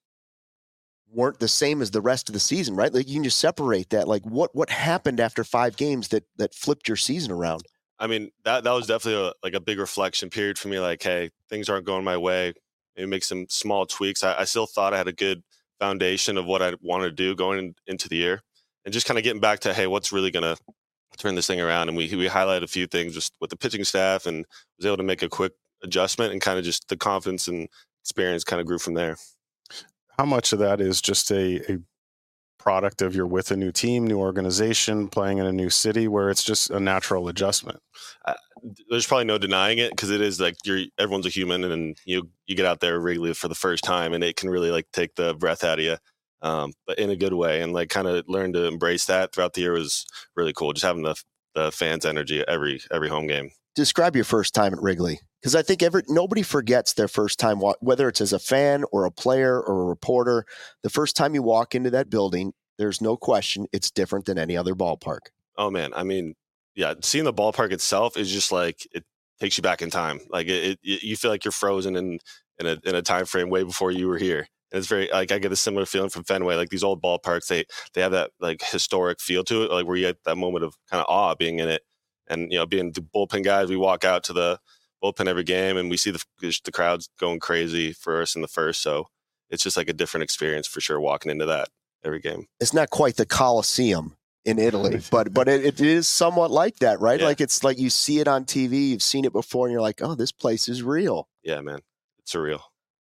Speaker 4: weren't the same as the rest of the season, right? Like you can just separate that. Like what happened after 5 games that flipped your season around?
Speaker 5: I mean, that was definitely a big reflection period for me. Like, hey, things aren't going my way. Maybe make some small tweaks. I still thought I had a good foundation of what I wanted to do going into the year, and just kind of getting back to, hey, what's really going to turn this thing around? And we highlighted a few things just with the pitching staff, and was able to make a quick adjustment, and kind of just the confidence and experience kind of grew from there.
Speaker 6: How much of that is just a product of you're with a new team, new organization, playing in a new city, where it's just a natural adjustment?
Speaker 5: There's probably no denying it, because it is like everyone's a human, and you get out there regularly for the first time, and it can really like take the breath out of you, but in a good way. And like kind of learn to embrace that throughout the year was really cool. Just having the fans' energy at every home game.
Speaker 4: Describe your first time at Wrigley, because I think nobody forgets their first time, whether it's as a fan or a player or a reporter. The first time you walk into that building, there's no question it's different than any other ballpark.
Speaker 5: Oh man, I mean, yeah, seeing the ballpark itself is just like it takes you back in time. Like you feel like you're frozen in a time frame way before you were here. And it's very like I get a similar feeling from Fenway. Like these old ballparks, they have that like historic feel to it, like where you get that moment of kind of awe being in it. And, you know, being the bullpen guys, we walk out to the bullpen every game and we see the crowds going crazy for us in the first. So it's just like a different experience for sure walking into that every game.
Speaker 4: It's not quite the Coliseum in Italy, but it is somewhat like that, right? Yeah. Like it's like you see it on TV, you've seen it before, and you're like, oh, this place is real.
Speaker 5: Yeah, man. It's surreal.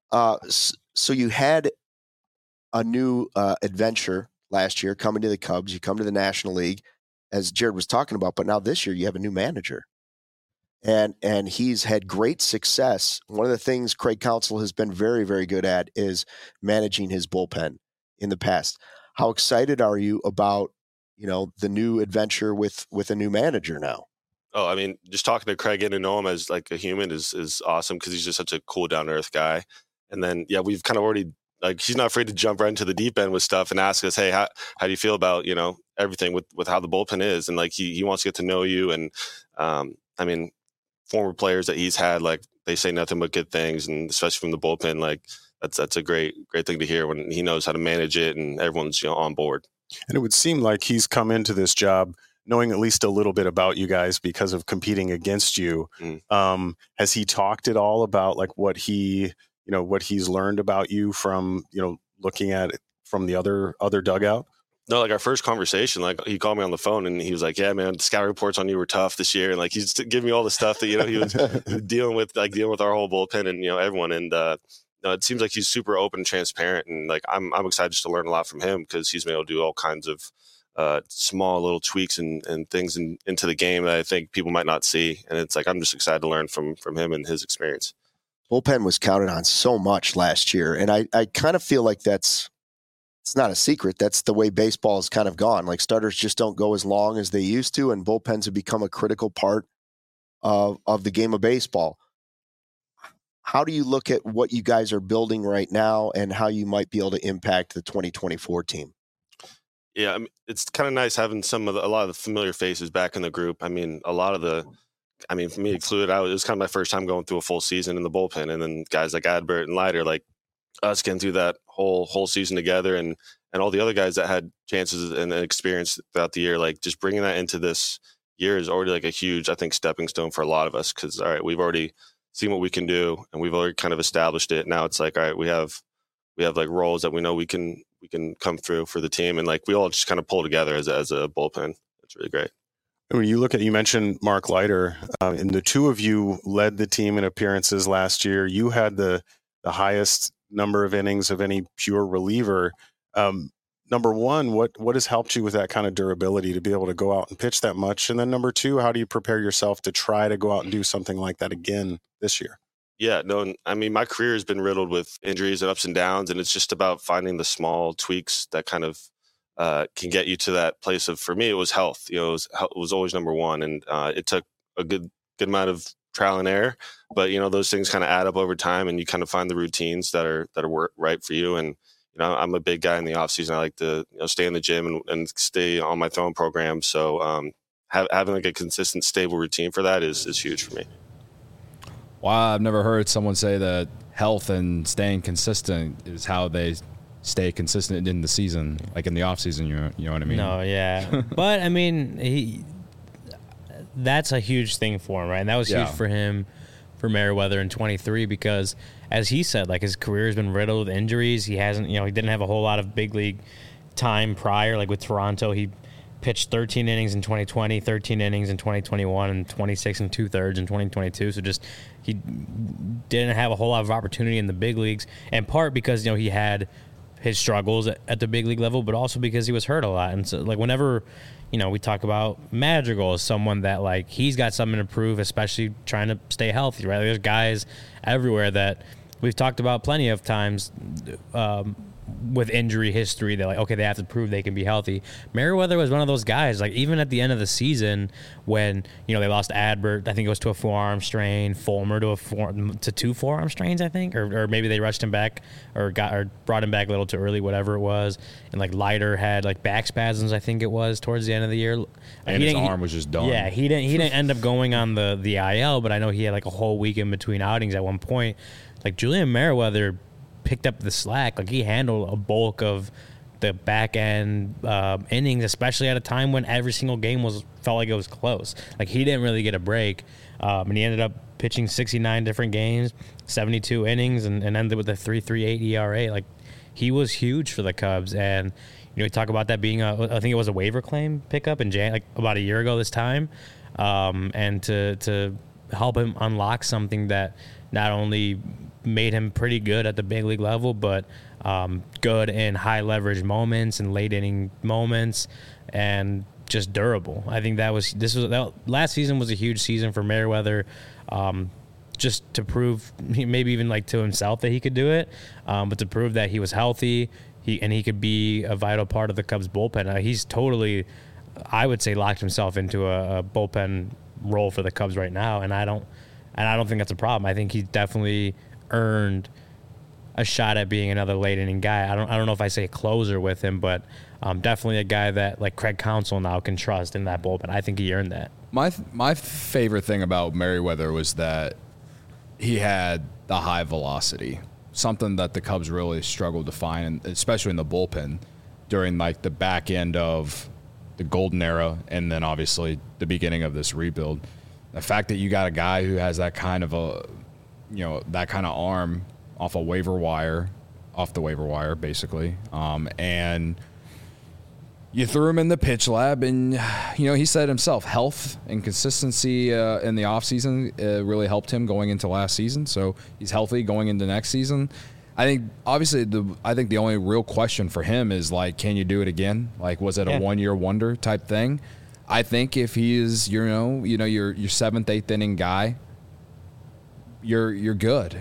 Speaker 4: So you had a new adventure last year coming to the Cubs. You come to the National League, as Jared was talking about, but now this year you have a new manager. And he's had great success. One of the things Craig Counsell has been very, very good at is managing his bullpen in the past. How excited are you about, you know, the new adventure with a new manager now?
Speaker 5: Oh, I mean, just talking to Craig, getting to know him as like a human is awesome, because he's just such a cool, down to earth guy. And then, yeah, we've kind of already, like, he's not afraid to jump right into the deep end with stuff and ask us, hey, how do you feel about, you know, everything with how the bullpen is? And like, he wants to get to know you. And I mean, former players that he's had, like, they say nothing but good things, and especially from the bullpen, like that's a great thing to hear when he knows how to manage it and everyone's, you know, on board.
Speaker 6: And it would seem like he's come into this job knowing at least a little bit about you guys because of competing against you. Has he talked at all about like what he's learned about you from, you know, looking at it from the other dugout?
Speaker 5: No, like our first conversation, like he called me on the phone and he was like, yeah, man, scout reports on you were tough this year. And like, he's giving me all the stuff that, you know, he was dealing with our whole bullpen and, you know, everyone. And it seems like he's super open and transparent. And like, I'm excited just to learn a lot from him, because he's been able to do all kinds of small little tweaks and things into the game that I think people might not see. And it's like, I'm just excited to learn from him and his experience.
Speaker 4: Bullpen was counted on so much last year. And I kind of feel like it's not a secret. That's the way baseball has kind of gone. Like starters just don't go as long as they used to, and bullpens have become a critical part of the game of baseball. How do you look at what you guys are building right now and how you might be able to impact the 2024 team?
Speaker 5: Yeah, I mean, it's kind of nice having a lot of the familiar faces back in the group. I mean, for me included, it was kind of my first time going through a full season in the bullpen, and then guys like Adbert and Leiter, like us getting through that whole season together, and all the other guys that had chances and experience throughout the year, like just bringing that into this year is already like a huge, I think, stepping stone for a lot of us. Because all right, we've already seen what we can do, and we've already kind of established it. Now it's like, all right, we have like roles that we know we can come through for the team, and like we all just kind of pull together as a bullpen. It's really great.
Speaker 6: When you look at, you mentioned Mark Leiter, and the two of you led the team in appearances last year. You had the highest number of innings of any pure reliever. number one, what has helped you with that kind of durability to be able to go out and pitch that much? And then number two, how do you prepare yourself to try to go out and do something like that again this year?
Speaker 5: Yeah, no, I mean, my career has been riddled with injuries and ups and downs, and it's just about finding the small tweaks that kind of can get you to that place of, for me, it was health. You know, it was always number one, and it took a good amount of trial and error, but those things kind of add up over time, and you kind of find the routines that are right for you. And I'm a big guy in the off season. I like to stay in the gym and stay on my throwing program. So having like a consistent, stable routine for that is huge for me.
Speaker 1: Wow, I've never heard someone say that health and staying consistent is how they stay consistent in the season, like in the off season. You know what I mean?
Speaker 2: No, yeah, but I mean, that's a huge thing for him, right? And that was huge for him, for Merryweather in 23, because as he said, like, his career has been riddled with injuries. He hasn't, he didn't have a whole lot of big league time prior. Like with Toronto, he pitched 13 innings in 2020, 13 innings in 2021, and 26 and 2/3 in 2022. So just he didn't have a whole lot of opportunity in the big leagues, in part because he had his struggles at the big league level, but also because he was hurt a lot. And so, like, whenever we talk about Madrigal as someone that, like, he's got something to prove, especially trying to stay healthy, right? There's guys everywhere that we've talked about plenty of times with injury history that, like, okay, they have to prove they can be healthy. Merryweather was one of those guys, like, even at the end of the season when, they lost Adbert, I think it was to a forearm strain, Fulmer to two forearm strains, I think, or maybe they rushed him back or brought him back a little too early, whatever it was. And, like, Leiter had, like, back spasms, I think it was, towards the end of the year.
Speaker 1: And his arm was just done.
Speaker 2: Yeah, he didn't end up going on the IL, but I know he had, like, a whole week in between outings at one point. Like, Julian Merryweather picked up the slack. Like, he handled a bulk of the back end innings, especially at a time when every single game felt like it was close. Like, he didn't really get a break, and he ended up pitching 69 different games, 72 innings, and ended with a 3.38 ERA. Like, he was huge for the Cubs, and we talk about that being I think it was a waiver claim pickup in like about a year ago this time, and to help him unlock something that not only made him pretty good at the big league level, but good in high leverage moments and late inning moments, and just durable. I think last season was a huge season for Merryweather, just to prove, maybe even like to himself, that he could do it, but to prove that he was healthy, he could be a vital part of the Cubs bullpen. He's totally, I would say, locked himself into a bullpen role for the Cubs right now, and I don't think that's a problem. I think he definitely earned a shot at being another late inning guy. I don't know if I say a closer with him, but definitely a guy that, like, Craig Counsell now can trust in that bullpen. I think he earned that.
Speaker 1: My favorite thing about Merryweather was that he had the high velocity, something that the Cubs really struggled to find, especially in the bullpen during, like, the back end of the golden era and then obviously the beginning of this rebuild. The fact that you got a guy who has that kind of that kind of arm off the waiver wire, basically, and you threw him in the pitch lab, and he said himself, health and consistency in the offseason really helped him going into last season. So he's healthy going into next season. I think obviously the only real question for him is, like, can you do it again? Like, was it a 1-year wonder type thing? I think if he is your 7th, 8th inning guy, you're good.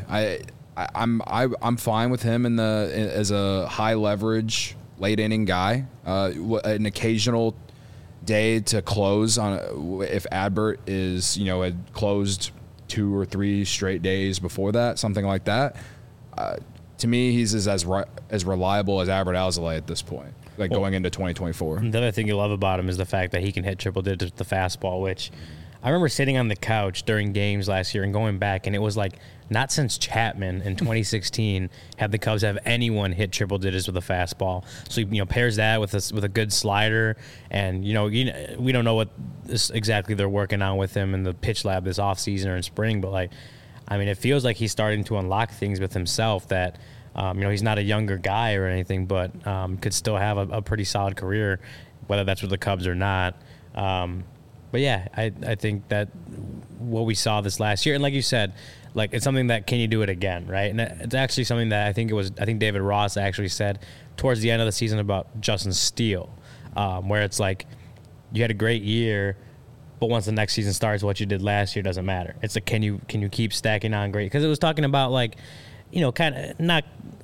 Speaker 1: I'm fine with him as a high leverage late inning guy. An occasional day to close on, if Adbert is had closed 2 or 3 straight days before that, something like that. To me, he's as reliable as Adbert Alzolay at this point, going into 2024.
Speaker 2: The other thing you love about him is the fact that he can hit triple digits with the fastball, which I remember sitting on the couch during games last year and going back, and it was like, not since Chapman in 2016 have the Cubs have anyone hit triple digits with a fastball. So pairs that with a good slider, and we don't know what exactly they're working on with him in the pitch lab this offseason or in spring, but it feels like he's starting to unlock things with himself that he's not a younger guy or anything, but could still have a pretty solid career, whether that's with the Cubs or not. But yeah, I think that what we saw this last year, and like you said, Like, it's something that, can you do it again, right? And it's actually something that I think David Ross actually said towards the end of the season about Justin Steele, where it's like, you had a great year, but once the next season starts, what you did last year doesn't matter. It's like, can you keep stacking on great? Because it was talking about, like, you know, kind of not.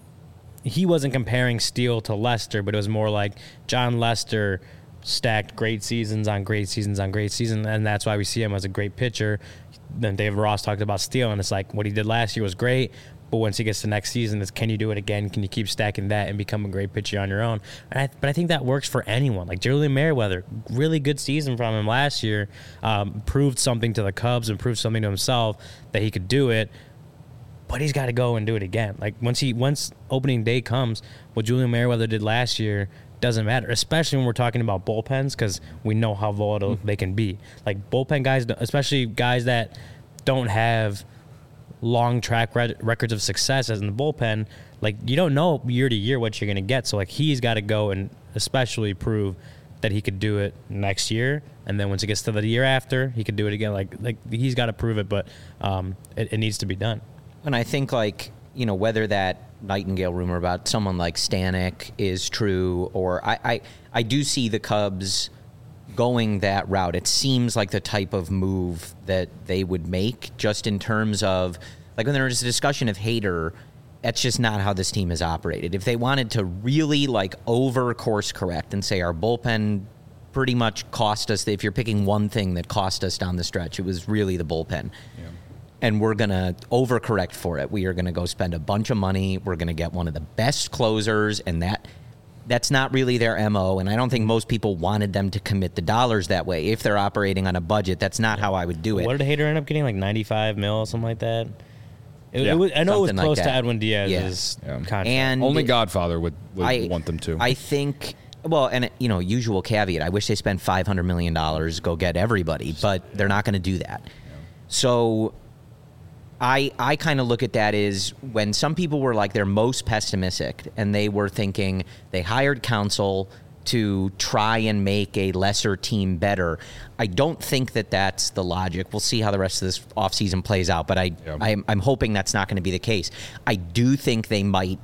Speaker 2: He wasn't comparing Steele to Lester, but it was more like John Lester stacked great seasons on great seasons on great seasons, and that's why we see him as a great pitcher. Then David Ross talked about Steele, and it's like, what he did last year was great, but once he gets to next season, it's, can you do it again? Can you keep stacking that and become a great pitcher on your own? But I think that works for anyone. Like Julian Merryweather, really good season from him last year, proved something to the Cubs and proved something to himself that he could do it. But he's got to go and do it again. Like once opening day comes, what Julian Merryweather did last year doesn't matter, especially when we're talking about bullpens, because we know how volatile they can be. Like bullpen guys, especially guys that don't have long track records of success as in the bullpen, like you don't know year to year what you're going to get. So like he's got to go and especially prove that he could do it next year, and then once it gets to the year after, he could do it again. Like he's got to prove it, but it needs to be done.
Speaker 3: And I think, like, you know, whether that Nightingale rumor about someone like Stanek is true, or I do see the Cubs going that route. It seems like the type of move that they would make, just in terms of, like, when there was a discussion of Hader, that's just not how this team has operated. If they wanted to really, like, over course correct and say our bullpen pretty much cost us, if you're picking one thing that cost us down the stretch, it was really the bullpen. Yeah. And we're going to overcorrect for it. We are going to go spend a bunch of money. We're going to get one of the best closers, and that's not really their MO, and I don't think most people wanted them to commit the dollars that way. If they're operating on a budget, that's not how I would do it.
Speaker 2: What did Hader end up getting, like $95 million, something like that? It was, I know something it was close to Edwin Diaz's contract.
Speaker 1: And only Godfather would want them to.
Speaker 3: I think... Well, and, you know, usual caveat, I wish they spent $500 million, go get everybody, but they're not going to do that. Yeah. So... I kind of look at that as when some people were like their most pessimistic and they were thinking they hired counsel to try and make a lesser team better. I don't think that that's the logic. We'll see how the rest of this offseason plays out, but I'm hoping that's not going to be the case. I do think they might.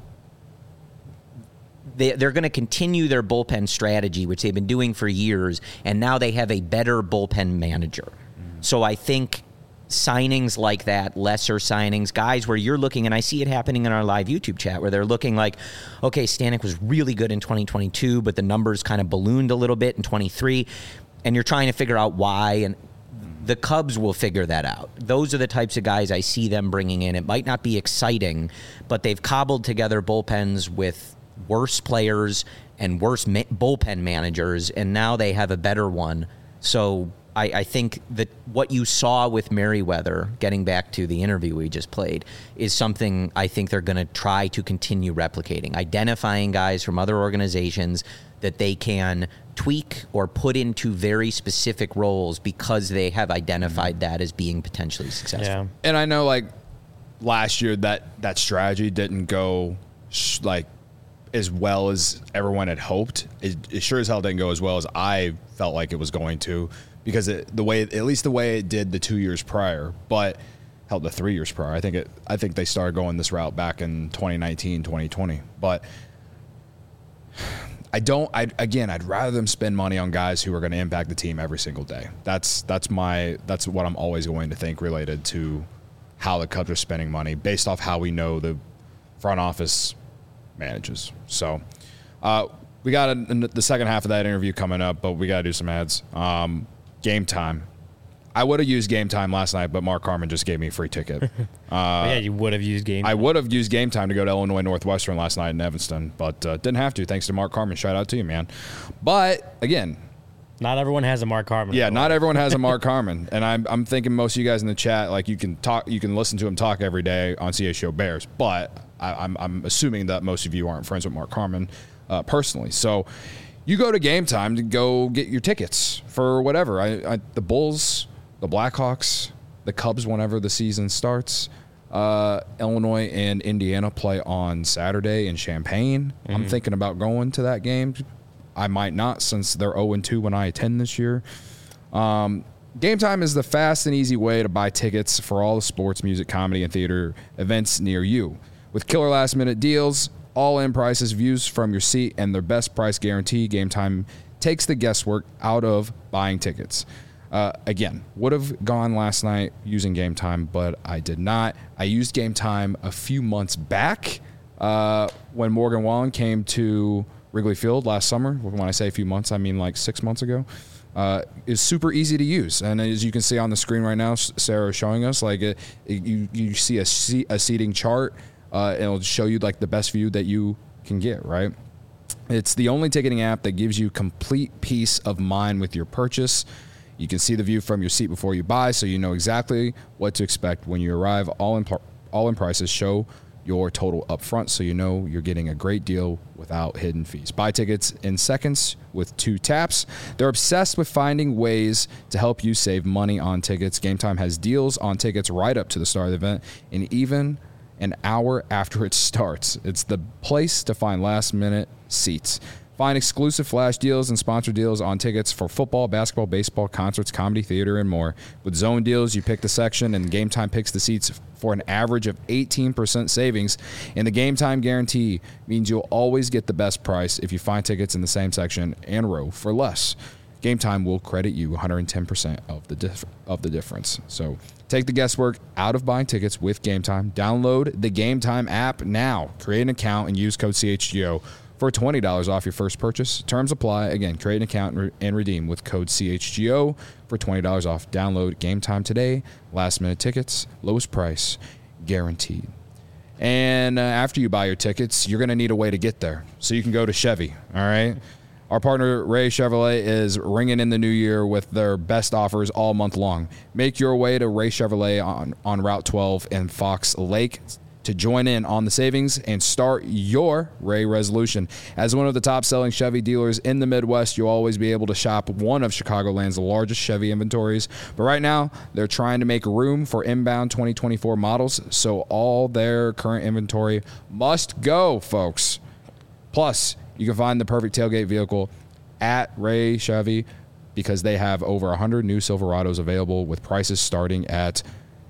Speaker 3: They're going to continue their bullpen strategy, which they've been doing for years, and now they have a better bullpen manager. So I think signings like that, lesser signings, guys where you're looking, and I see it happening in our live YouTube chat, where they're looking like, okay, Stanek was really good in 2022, but the numbers kind of ballooned a little bit in 23, and you're trying to figure out why, and the Cubs will figure that out. Those are the types of guys I see them bringing in. It might not be exciting, but they've cobbled together bullpens with worse players and worse bullpen managers, and now they have a better one. So I think that what you saw with Merryweather, getting back to the interview we just played, is something I think they're going to try to continue replicating, identifying guys from other organizations that they can tweak or put into very specific roles because they have identified that as being potentially successful.
Speaker 1: Yeah. And I know, like, last year that strategy didn't go like as well as everyone had hoped. It sure as hell didn't go as well as I felt like it was going to, because at least the way it did the 2 years prior, but hell, the 3 years prior. I think they started going this route back in 2019, 2020. But I'd rather them spend money on guys who are going to impact the team every single day. That's what I'm always going to think related to how the Cubs are spending money based off how we know the front office manages. So we got the second half of that interview coming up, but we got to do some ads. Game Time. I would have used Game Time last night, but Mark Harmon just gave me a free ticket.
Speaker 2: Yeah, you would have used Game Time.
Speaker 1: I would have used Game Time to go to Illinois Northwestern last night in Evanston, but didn't have to, thanks to Mark Harmon. Shout out to you, man. But, again,
Speaker 2: not everyone has a Mark Harmon.
Speaker 1: Yeah, not everyone has a Mark Harmon. And I'm thinking most of you guys in the chat, like, you can listen to him talk every day on CHGO Bears, but I'm assuming that most of you aren't friends with Mark Harmon personally. So you go to Game Time to go get your tickets for whatever. The Bulls, the Blackhawks, the Cubs, whenever the season starts. Illinois and Indiana play on Saturday in Champaign. Mm-hmm. I'm thinking about going to that game. I might not, since they're 0-2 when I attend this year. Game Time is the fast and easy way to buy tickets for all the sports, music, comedy, and theater events near you. With killer last-minute deals, all-in prices, views from your seat, and their best price guarantee, Game Time takes the guesswork out of buying tickets. Again, would have gone last night using Game Time, but I did not. I used Game Time a few months back when Morgan Wallen came to Wrigley Field last summer. When I say a few months, I mean like 6 months ago. Is super easy to use, and as you can see on the screen right now, Sarah is showing us you see a seating chart, and it'll show you like the best view that you can get. Right, it's the only ticketing app that gives you complete peace of mind with your purchase. You can see the view from your seat before you buy, so you know exactly what to expect when you arrive. All in prices show your total up front, so you know you're getting a great deal without hidden fees. Buy tickets in seconds with 2 taps. They're obsessed with finding ways to help you save money on tickets. Game Time has deals on tickets right up to the start of the event, and even an hour after it starts. It's the place to find last-minute seats. Find exclusive flash deals and sponsor deals on tickets for football, basketball, baseball, concerts, comedy, theater, and more. With zone deals, you pick the section, and Game Time picks the seats for an average of 18% savings. And the Game Time guarantee means you'll always get the best price if you find tickets in the same section and row for less. Game Time will credit you 110% of the difference. So take the guesswork out of buying tickets with Game Time. Download the Game Time app now. Create an account and use code CHGO for $20 off your first purchase. Terms apply. Again, create an account and redeem with code CHGO for $20 off. Download Game Time today. Last-minute tickets, lowest price, guaranteed. And after you buy your tickets, you're going to need a way to get there. So you can go to Chevy, all right? Our partner, Ray Chevrolet, is ringing in the new year with their best offers all month long. Make your way to Ray Chevrolet on Route 12 in Fox Lake to join in on the savings and start your Ray resolution. As one of the top-selling Chevy dealers in the Midwest, you'll always be able to shop one of Chicagoland's largest Chevy inventories. But right now, they're trying to make room for inbound 2024 models, so all their current inventory must go, folks. Plus, you can find the perfect tailgate vehicle at Ray Chevy because they have over 100 new Silverados available with prices starting at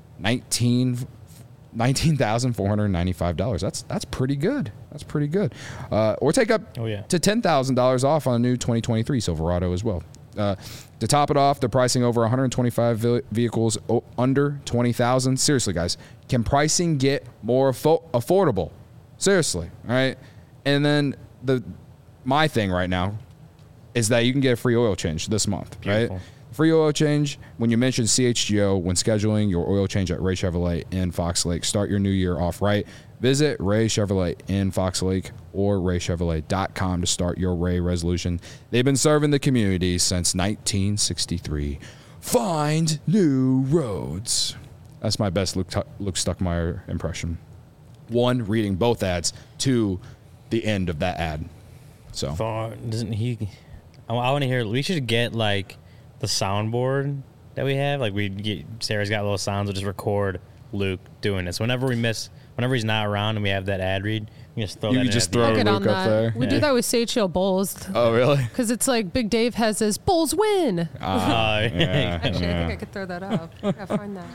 Speaker 1: $19,495. That's pretty good. That's pretty good. Or take up to $10,000 off on a new 2023 Silverado as well. To top it off, they're pricing over 125 vehicles under $20,000. Seriously, guys, can pricing get more affordable? Seriously, all right? And then my thing right now is that you can get a free oil change this month,
Speaker 2: Beautiful.
Speaker 1: right? Free oil change when you mention CHGO when scheduling your oil change at Ray Chevrolet in Fox Lake. Start your new year off right. Visit Ray Chevrolet in Fox Lake or raychevrolet.com to start your Ray resolution. They've been serving the community since 1963. Find new roads. That's my best Luke Stuckmeyer impression. 1, reading both ads. 2, the end of that ad. So
Speaker 2: doesn't he? I want to hear. We should get like the soundboard that we have. Like Sarah's got little sounds. We'll just record Luke doing this whenever he's not around and we have that ad read. You just throw
Speaker 1: you
Speaker 2: that.
Speaker 1: You just throw Luke up there.
Speaker 7: We do that with Sage Hill Bulls.
Speaker 1: Oh really?
Speaker 7: Because it's like Big Dave has his Bulls win. Actually, I think I could throw that up. I gotta find that.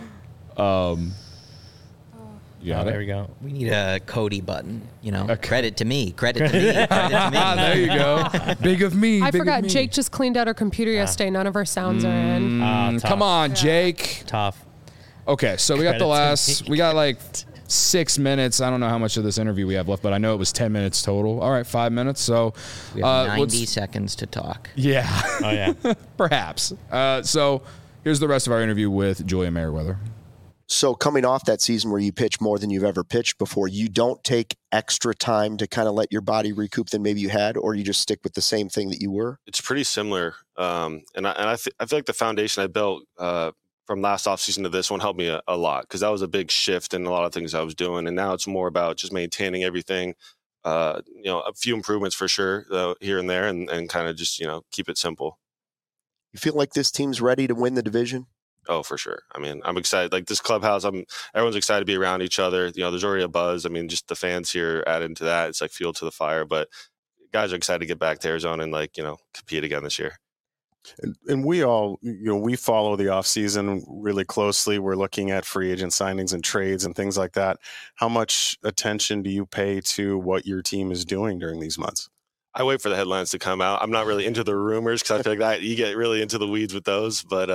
Speaker 2: There we go.
Speaker 3: We need a Cody button. Credit to me. Credit to me. Credit to me.
Speaker 1: There you go. Big of me.
Speaker 7: I forgot. Jake just cleaned out our computer yesterday. None of our sounds are in.
Speaker 1: Come on, Jake.
Speaker 2: Tough.
Speaker 1: Okay, so we got we got like 6 minutes. I don't know how much of this interview we have left, but I know it was 10 minutes total. All right, 5 minutes. So
Speaker 3: we have 90 seconds to talk.
Speaker 1: Yeah.
Speaker 2: Oh yeah.
Speaker 1: Perhaps. So here's the rest of our interview with Julia Merriweather.
Speaker 4: So coming off that season where you pitch more than you've ever pitched before, you don't take extra time to kind of let your body recoup than maybe you had, or you just stick with the same thing that you were?
Speaker 5: It's pretty similar. And I feel like the foundation I built from last offseason to this one helped me a lot because that was a big shift in a lot of things I was doing. And now it's more about just maintaining everything, a few improvements for sure here and there and kind of just, keep it simple.
Speaker 4: You feel like this team's ready to win the division?
Speaker 5: Oh, for sure. I mean, I'm excited. Like this clubhouse, everyone's excited to be around each other. There's already a buzz. I mean, just the fans here add into that. It's like fuel to the fire. But guys are excited to get back to Arizona and compete again this year.
Speaker 6: And we all, we follow the offseason really closely. We're looking at free agent signings and trades and things like that. How much attention do you pay to what your team is doing during these months?
Speaker 5: I wait for the headlines to come out. I'm not really into the rumors because I feel like that you get really into the weeds with those. But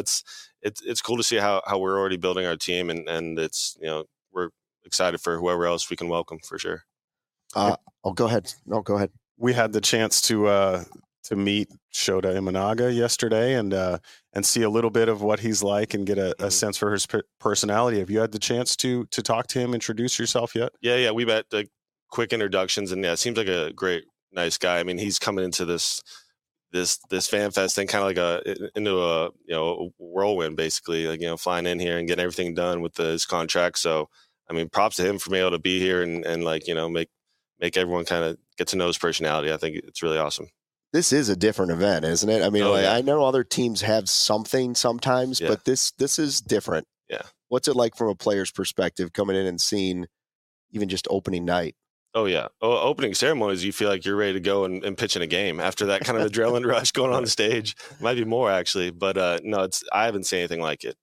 Speaker 5: it's cool to see how we're already building our team, and it's we're excited for whoever else we can welcome for sure.
Speaker 4: Go ahead. No, go ahead.
Speaker 6: We had the chance to meet Shota Imanaga yesterday and see a little bit of what he's like and get a sense for his personality. Have you had the chance to talk to him, introduce yourself yet?
Speaker 5: Yeah. We've had quick introductions, and seems like a great, nice guy. I mean, he's coming into this fan fest thing kind of like into a whirlwind, basically, like flying in here and getting everything done with his contract. So I mean, props to him for being able to be here and make everyone kind of get to know his personality. I think it's really awesome.
Speaker 4: This is a different event, isn't it? I mean, I know other teams have something sometimes, but this is different.
Speaker 5: Yeah.
Speaker 4: What's it like from a player's perspective coming in and seeing even just opening night?
Speaker 5: Oh, yeah. Opening ceremonies, you feel like you're ready to go and pitch in a game after that kind of adrenaline rush going on the stage. Might be more, actually. But, no, I haven't seen anything like it.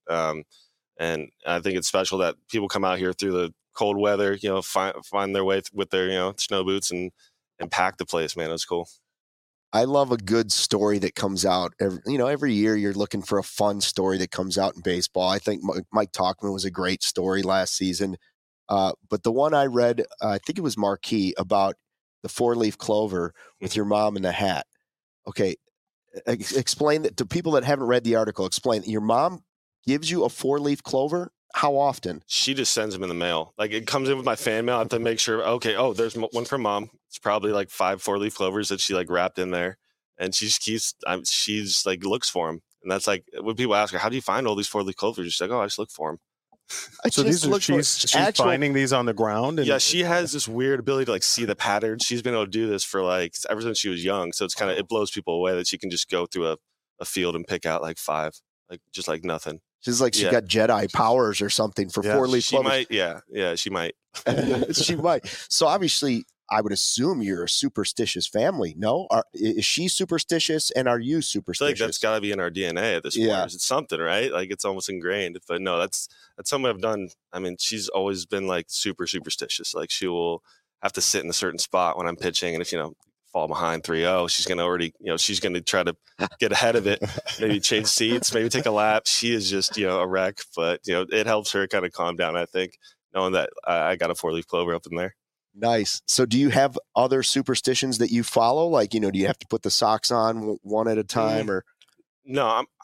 Speaker 5: And I think it's special that people come out here through the cold weather, find their way with their, snow boots and pack the place, man. It's cool.
Speaker 4: I love a good story that comes out. Every year you're looking for a fun story that comes out in baseball. I think Mike Tauchman was a great story last season. But the one I read, I think it was Marquee, about the 4-leaf clover with your mom in the hat. Okay. Explain that to people that haven't read the article. Explain that your mom gives you a 4-leaf clover. How often?
Speaker 5: She just sends them in the mail. Like, it comes in with my fan mail. I have to make sure, there's one from mom. It's probably like 5 4-leaf clovers that she like wrapped in there. And she just she's like looks for them. And that's like, when people ask her, how do you find all these 4-leaf clovers? She's like, I just look for them.
Speaker 6: So she's finding these on the ground?
Speaker 5: Yeah, she has this weird ability to like see the patterns. She's been able to do this for ever since she was young. So it's it blows people away that she can just go through a field and pick out like 5, just like nothing.
Speaker 4: She's like, she got Jedi powers or something for 4-leaf clovers.
Speaker 5: She might. Yeah, she might.
Speaker 4: She might. So obviously, I would assume you're a superstitious family. No? Is she superstitious, and are you superstitious?
Speaker 5: I feel like that's got to be in our DNA at this point. It's something, right? Like, it's almost ingrained. But no, that's something I've done. I mean, she's always been like super superstitious. Like, she will have to sit in a certain spot when I'm pitching, and if fall behind 3-0, she's going to already, she's going to try to get ahead of it, maybe change seats, maybe take a lap. She is just, a wreck, but, it helps her kind of calm down, I think, knowing that I got a 4-leaf clover up in there.
Speaker 4: Nice. So do you have other superstitions that you follow? Like, do you have to put the socks on one at a time or?
Speaker 5: No,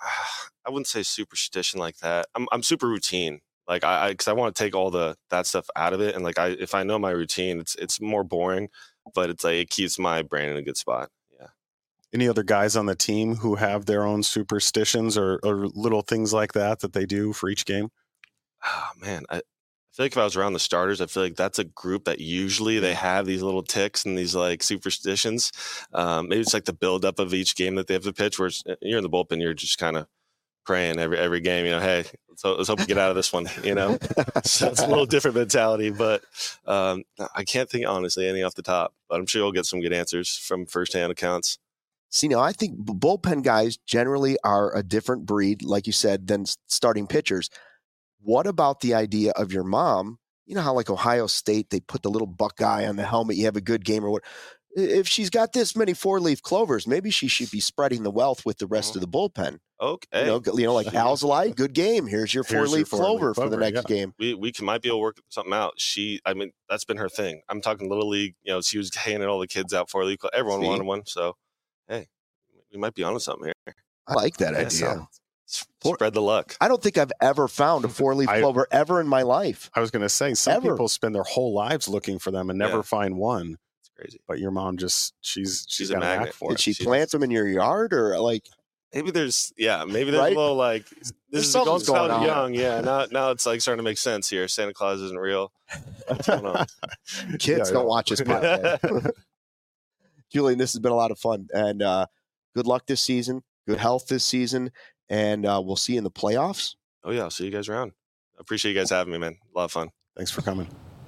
Speaker 5: I wouldn't say superstition like that. I'm super routine. Like because I want to take all that stuff out of it. And like, if I know my routine, it's more boring, but it's like, it keeps my brain in a good spot. Yeah.
Speaker 6: Any other guys on the team who have their own superstitions or little things like that they do for each game?
Speaker 5: Oh man. I feel like if I was around the starters, I feel like that's a group that usually they have these little ticks and these like superstitions. Maybe it's like the buildup of each game that they have to pitch, where you're in the bullpen, you're just kind of praying every game, hey, let's hope we get out of this one, So it's a little different mentality, but I can't think honestly any off the top, but I'm sure you'll get some good answers from firsthand accounts.
Speaker 4: See, now I think bullpen guys generally are a different breed, like you said, than starting pitchers. What about the idea of your mom? You know how like Ohio State, they put the little Buckeye on the helmet, you have a good game or what? If she's got this many 4-leaf clovers, maybe she should be spreading the wealth with the rest of the bullpen.
Speaker 5: Okay.
Speaker 4: Like Alzolay, good game. Here's your 4-leaf clover for the next game.
Speaker 5: We might be able to work something out. That's been her thing. I'm talking Little League. She was handing all the kids out 4-leaf. Everyone wanted one. So, hey, we might be onto something here.
Speaker 4: I like that idea.
Speaker 5: Spread the luck.
Speaker 4: I don't think I've ever found a 4-leaf clover ever in my life.
Speaker 6: I was going to say, some people spend their whole lives looking for them and never find one.
Speaker 5: It's crazy.
Speaker 6: But your mom she's
Speaker 5: a magnet
Speaker 6: for it.
Speaker 4: Did she plant them in your yard or like?
Speaker 5: Maybe there's a little like, this is going on young. Yeah. Now it's like starting to make sense here. Santa Claus isn't real. What's going on?
Speaker 4: Kids don't watch this podcast. Julian, this has been a lot of fun, and good luck this season. Good health this season. And we'll see you in the playoffs.
Speaker 5: Oh, yeah. I'll see you guys around. I appreciate you guys having me, man. A lot of fun.
Speaker 6: Thanks for coming.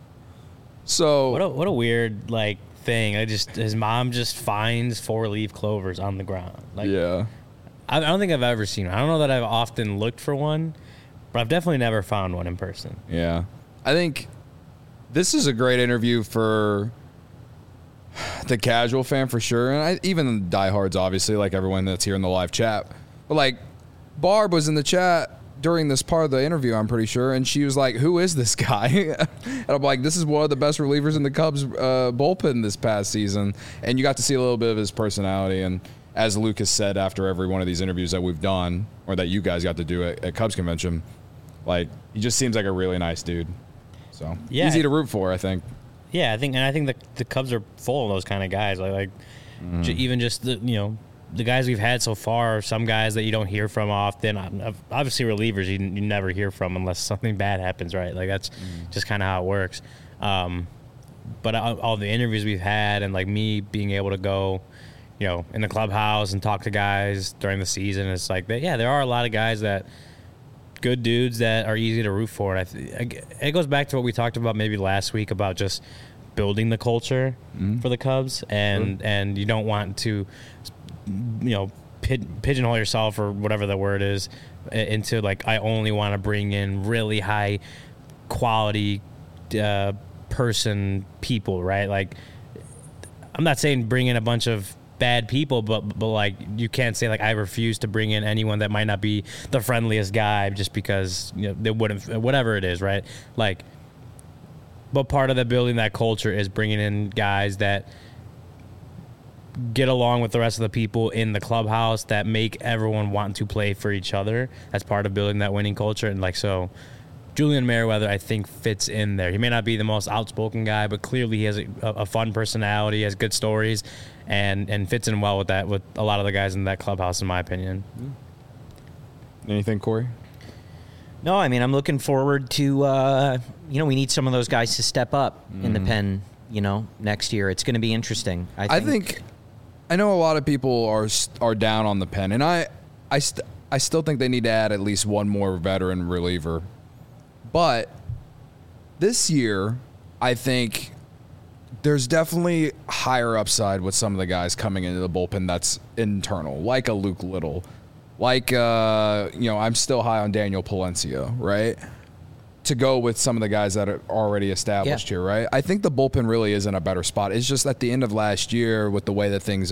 Speaker 1: So
Speaker 2: what a weird thing. His mom just finds 4-leaf clovers on the ground. I don't think I've ever seen one. I don't know that I've often looked for one, but I've definitely never found one in person.
Speaker 1: Yeah. I think this is a great interview for the casual fan for sure, and even diehards, obviously, like everyone that's here in the live chat. But, like, Barb was in the chat during this part of the interview, I'm pretty sure, and she was like, who is this guy? And I'm like, this is one of the best relievers in the Cubs bullpen this past season. And you got to see a little bit of his personality, and as Lucas said after every one of these interviews that we've done, or that you guys got to do at Cubs Convention, like, he just seems like a really nice dude. So, easy to root for, I think.
Speaker 2: Yeah, I think the Cubs are full of those kind of guys. Even just the guys we've had so far, some guys that you don't hear from often. Obviously, relievers you never hear from unless something bad happens, right? Like, that's just kind of how it works. But all the interviews we've had, and like me being able to go, in the clubhouse and talk to guys during the season, it's like there are a lot of guys that good dudes that are easy to root for. And it goes back to what we talked about maybe last week about just building the culture for the Cubs, and you don't want to, pigeonhole yourself or whatever the word is into like, I only want to bring in really high quality people, right? Like, I'm not saying bring in a bunch of bad people, but like, you can't say like, I refuse to bring in anyone that might not be the friendliest guy just because they wouldn't, whatever it is, right? Like, but part of the building that culture is bringing in guys that get along with the rest of the people in the clubhouse, that make everyone want to play for each other. That's part of building that winning culture. And like, so Julian Merryweather, I think, fits in there. He may not be the most outspoken guy, but clearly he has a fun personality, has good stories, and fits in well with that, with a lot of the guys in that clubhouse, in my opinion.
Speaker 1: Anything, Corey?
Speaker 3: No, I mean, I'm looking forward to, we need some of those guys to step up in the pen, next year. It's going to be interesting. I think
Speaker 1: I know a lot of people are down on the pen, and I still think they need to add at least one more veteran reliever. But this year, I think there's definitely higher upside with some of the guys coming into the bullpen that's internal, like a Luke Little. Like, I'm still high on Daniel Palencia, right? To go with some of the guys that are already established here, right? I think the bullpen really is in a better spot. It's just at the end of last year, with the way that things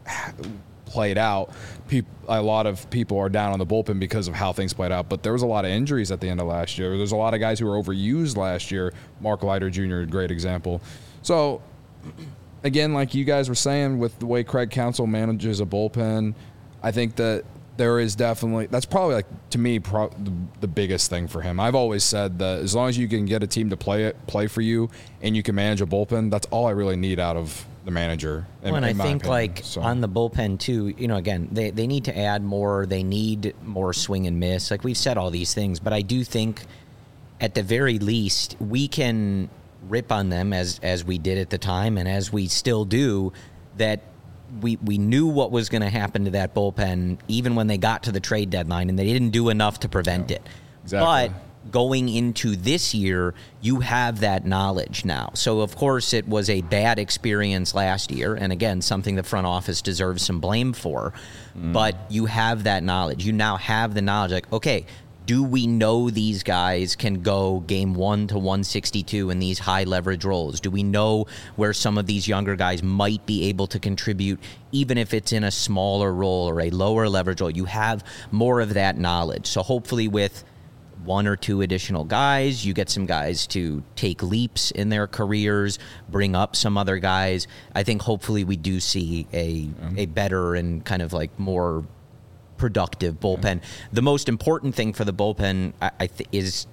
Speaker 1: played out, a lot of people are down on the bullpen because of how things played out. But there was a lot of injuries at the end of last year. There's a lot of guys who were overused last year. Mark Leiter Jr., a great example. So, again, like you guys were saying, with the way Craig Counsell manages a bullpen, I think that there is definitely, that's probably, like, to me, the biggest thing for him. I've always said that as long as you can get a team to play for you and you can manage a bullpen, that's all I really need out of the manager.
Speaker 3: And I think, on the bullpen, too, again, they need to add more. They need more swing and miss. Like, we've said all these things, but I do think, at the very least, we can rip on them as we did at the time and as we still do, that we knew what was going to happen to that bullpen even when they got to the trade deadline, and they didn't do enough to prevent it.
Speaker 1: Exactly.
Speaker 3: But going into this year, you have that knowledge now. So, of course, it was a bad experience last year, and again, something the front office deserves some blame for. But you have that knowledge. You now have the knowledge, like, okay, do we know these guys can go game 1 to 162 in these high leverage roles? Do we know where some of these younger guys might be able to contribute, even if it's in a smaller role or a lower leverage role? You have more of that knowledge. So hopefully with 1 or 2 additional guys, you get some guys to take leaps in their careers, bring up some other guys. I think hopefully we do see a better and kind of like more productive bullpen. The most important thing for the bullpen is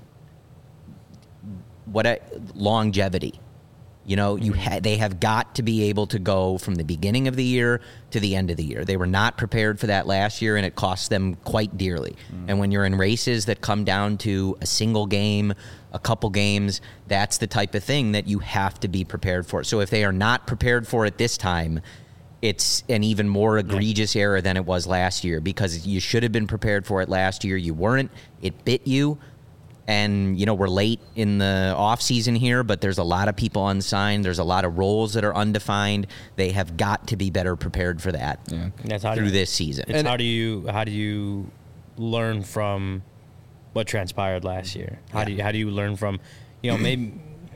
Speaker 3: longevity. They have got to be able to go from the beginning of the year to the end of the year. They were not prepared for that last year, and it cost them quite dearly. And when you're in races that come down to a single game, a couple games, that's the type of thing that you have to be prepared for. So if they are not prepared for it this time, it's an even more egregious error than it was last year, because you should have been prepared for it last year. You weren't. It bit you. And, we're late in the offseason here, but there's a lot of people unsigned. There's a lot of roles that are undefined. They have got to be better prepared for that through this season.
Speaker 2: It's how do you learn from what transpired last year? How do you learn from, maybe,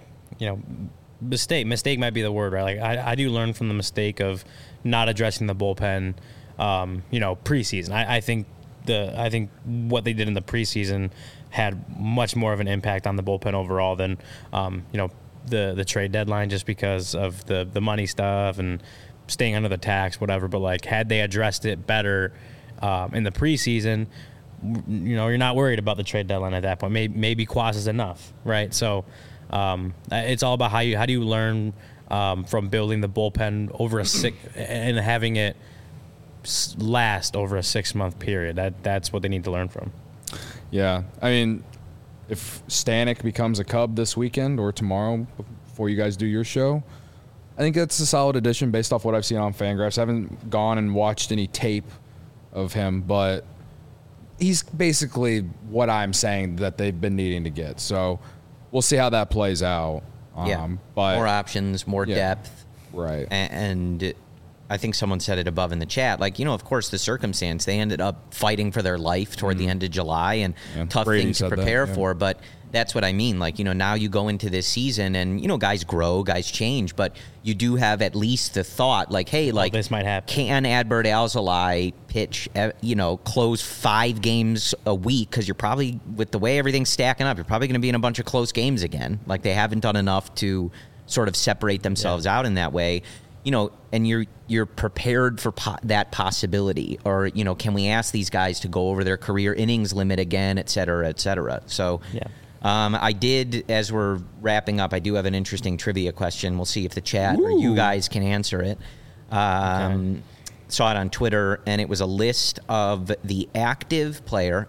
Speaker 2: mistake might be the word, right? Like, how do you learn from the mistake of not addressing the bullpen, preseason? I think what they did in the preseason had much more of an impact on the bullpen overall than, the trade deadline, just because of the money stuff and staying under the tax, whatever. But like, had they addressed it better in the preseason, you're not worried about the trade deadline at that point. Maybe Quas is enough, right? So it's all about how do you learn from building the bullpen over and having it last over a 6-month period. That's what they need to learn from.
Speaker 1: Yeah, I mean, if Stanek becomes a Cub this weekend or tomorrow before you guys do your show, I think that's a solid addition based off what I've seen on Fangraphs. I haven't gone and watched any tape of him, but he's basically what I'm saying that they've been needing to get. So we'll see how that plays out. But
Speaker 3: more options, more depth.
Speaker 1: Right.
Speaker 3: And I think someone said it above in the chat. Like, of course, the circumstance, they ended up fighting for their life toward the end of July, and tough thing to prepare for. But that's what I mean. Like, now you go into this season and, guys grow, guys change, but you do have at least the thought, like, hey, like,
Speaker 2: this might happen.
Speaker 3: Can Adbert Alzolay pitch, close 5 games a week? Because you're probably, with the way everything's stacking up, you're probably going to be in a bunch of close games again. Like, they haven't done enough to sort of separate themselves out in that way. And you're prepared for that possibility, or can we ask these guys to go over their career innings limit again, et cetera, et cetera. So, I did, as we're wrapping up, I do have an interesting trivia question. We'll see if the chat or you guys can answer it. Saw it on Twitter, and it was a list of the active player,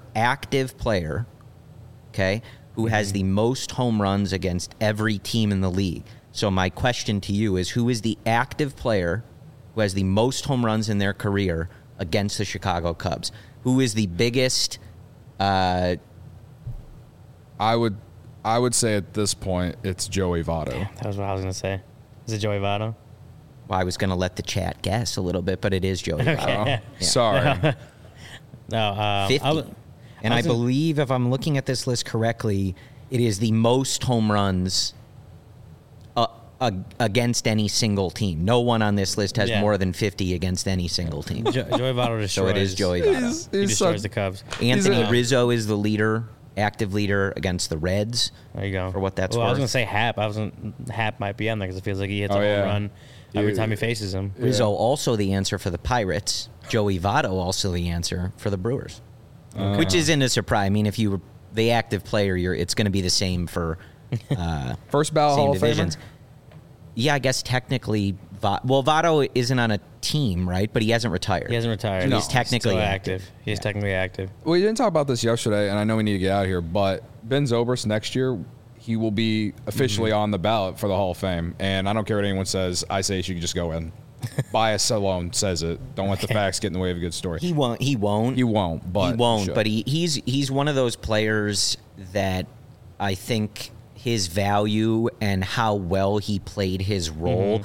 Speaker 3: okay, who has the most home runs against every team in the league. So my question to you is, who is the active player who has the most home runs in their career against the Chicago Cubs? Who is the biggest?
Speaker 1: I would say at this point it's Joey Votto.
Speaker 2: That was what I was going to say. Is it Joey Votto?
Speaker 3: Well, I was going to let the chat guess a little bit, but it is Joey Votto.
Speaker 1: Yeah. Sorry.
Speaker 2: No,
Speaker 3: 50. I believe, if I'm looking at this list correctly, it is the most home runs against any single team. No one on this list has more than 50 against any single team.
Speaker 2: Joey Votto destroys.
Speaker 3: So it is Joey Votto.
Speaker 2: He destroys the Cubs.
Speaker 3: Anthony Rizzo is the leader, active leader against the Reds.
Speaker 2: There you go.
Speaker 3: For what that's worth.
Speaker 2: I was going to say Hap. Hap might be on there because it feels like he hits a home run every time he faces him.
Speaker 3: Rizzo also the answer for the Pirates. Joey Votto also the answer for the Brewers. Which isn't a surprise. I mean, if you were the active player, it's going to be the same for
Speaker 1: first ballot Hall of Famer.
Speaker 3: Yeah, I guess technically, Votto isn't on a team, right? But he hasn't retired.
Speaker 2: He hasn't retired.
Speaker 3: So he's technically active.
Speaker 2: He's technically active.
Speaker 1: We didn't talk about this yesterday, and I know we need to get out of here, but Ben Zobrist next year, he will be officially on the ballot for the Hall of Fame. And I don't care what anyone says. I say he should just go in. Bias alone says it. Don't let the facts get in the way of a good story.
Speaker 3: He won't. But he's one of those players that I think his value and how well he played his role.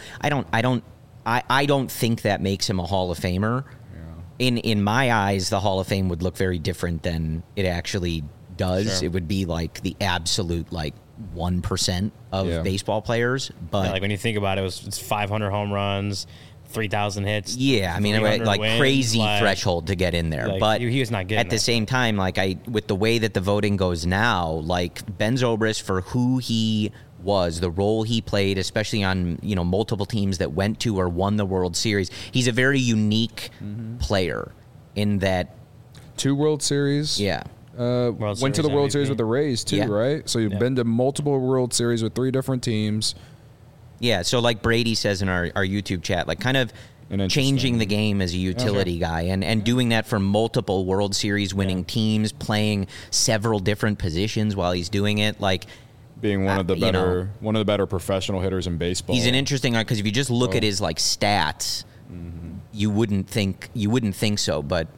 Speaker 3: I don't think that makes him a Hall of Famer. Yeah. In my eyes, the Hall of Fame would look very different than it actually does. Sure. It would be like the absolute 1% of baseball players. But
Speaker 2: when you think about it, it's 500 home runs, 3,000 hits.
Speaker 3: Yeah, I mean, wins, crazy threshold to get in there. But
Speaker 2: he was not getting
Speaker 3: at the same time, with the way that the voting goes now, Ben Zobrist, for who he was, the role he played, especially on multiple teams that went to or won the World Series, he's a very unique player in that
Speaker 1: 2 World Series.
Speaker 3: Yeah.
Speaker 1: Went to the World Series with the Rays too, right? So you've been to multiple World Series with 3 different teams.
Speaker 3: Yeah, so like Brady says in our YouTube chat, kind of changing the game as a utility guy and doing that for multiple World Series winning teams, playing several different positions while he's doing it,
Speaker 1: being one of the better professional hitters in baseball.
Speaker 3: He's an interesting guy because if you just look at his stats, you wouldn't think so, but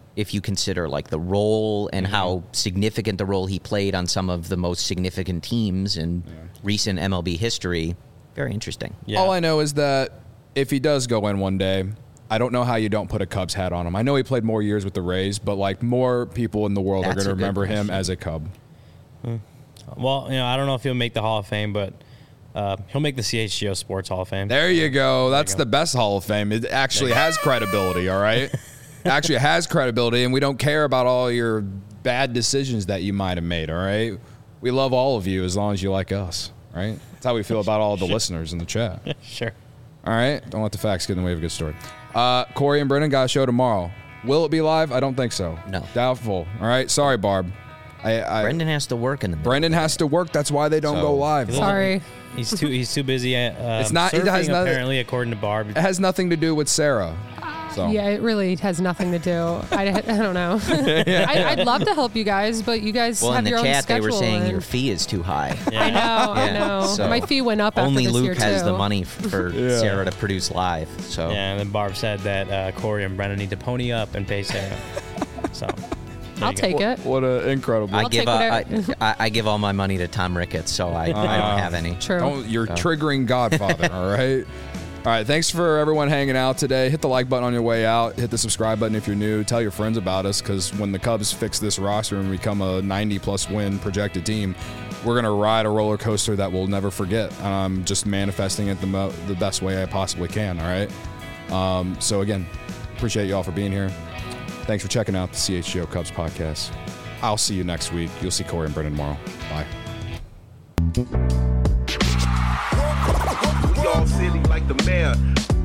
Speaker 3: if you consider like the role and how significant the role he played on some of the most significant teams in recent MLB history. Very interesting.
Speaker 1: Yeah. All I know is that if he does go in one day, I don't know how you don't put a Cubs hat on him. I know he played more years with the Rays, but like more people in the world are going to remember him as a Cub.
Speaker 2: Well, I don't know if he'll make the Hall of Fame, but he'll make the CHGO Sports Hall of Fame.
Speaker 1: There you go. That's the best Hall of Fame. It actually has credibility, all right? Actually has credibility, and we don't care about all your bad decisions that you might have made, all right? We love all of you as long as you like us, right? That's how we feel about all the listeners in the chat.
Speaker 2: Sure.
Speaker 1: All right? Don't let the facts get in the way of a good story. Corey and Brendan got a show tomorrow. Will it be live? I don't think so.
Speaker 3: No.
Speaker 1: Doubtful. All right? Sorry, Barb.
Speaker 3: Brendan has to work in the middle.
Speaker 1: Brendan has to work. That's why they don't go live.
Speaker 7: Sorry.
Speaker 2: He's too busy.
Speaker 1: It's not. It has nothing,
Speaker 2: apparently, according to Barb.
Speaker 1: It has nothing to do with Sarah. So.
Speaker 7: Yeah, it really has nothing to do. I don't know. I'd love to help you guys, but you guys have your own schedule.
Speaker 3: Well, in the chat, they were saying your fee is too high.
Speaker 7: Yeah. I know. So my fee went up
Speaker 3: only
Speaker 7: after this
Speaker 3: Luke has the money for Sarah to produce live. So
Speaker 2: yeah, and then Barb said that Corey and Brennan need to pony up and pay Sarah. So
Speaker 7: I'll take it.
Speaker 1: What an incredible!
Speaker 3: I give all my money to Tom Ricketts, so I don't have any.
Speaker 7: True.
Speaker 1: You're triggering Godfather. All right. All right, thanks for everyone hanging out today. Hit the like button on your way out. Hit the subscribe button if you're new. Tell your friends about us, because when the Cubs fix this roster and become a 90-plus win projected team, we're going to ride a roller coaster that we'll never forget. I'm just manifesting it the best way I possibly can, all right? So, again, appreciate you all for being here. Thanks for checking out the CHGO Cubs podcast. I'll see you next week. You'll see Corey and Brendan tomorrow. Bye.
Speaker 8: Y'all silly like the mayor.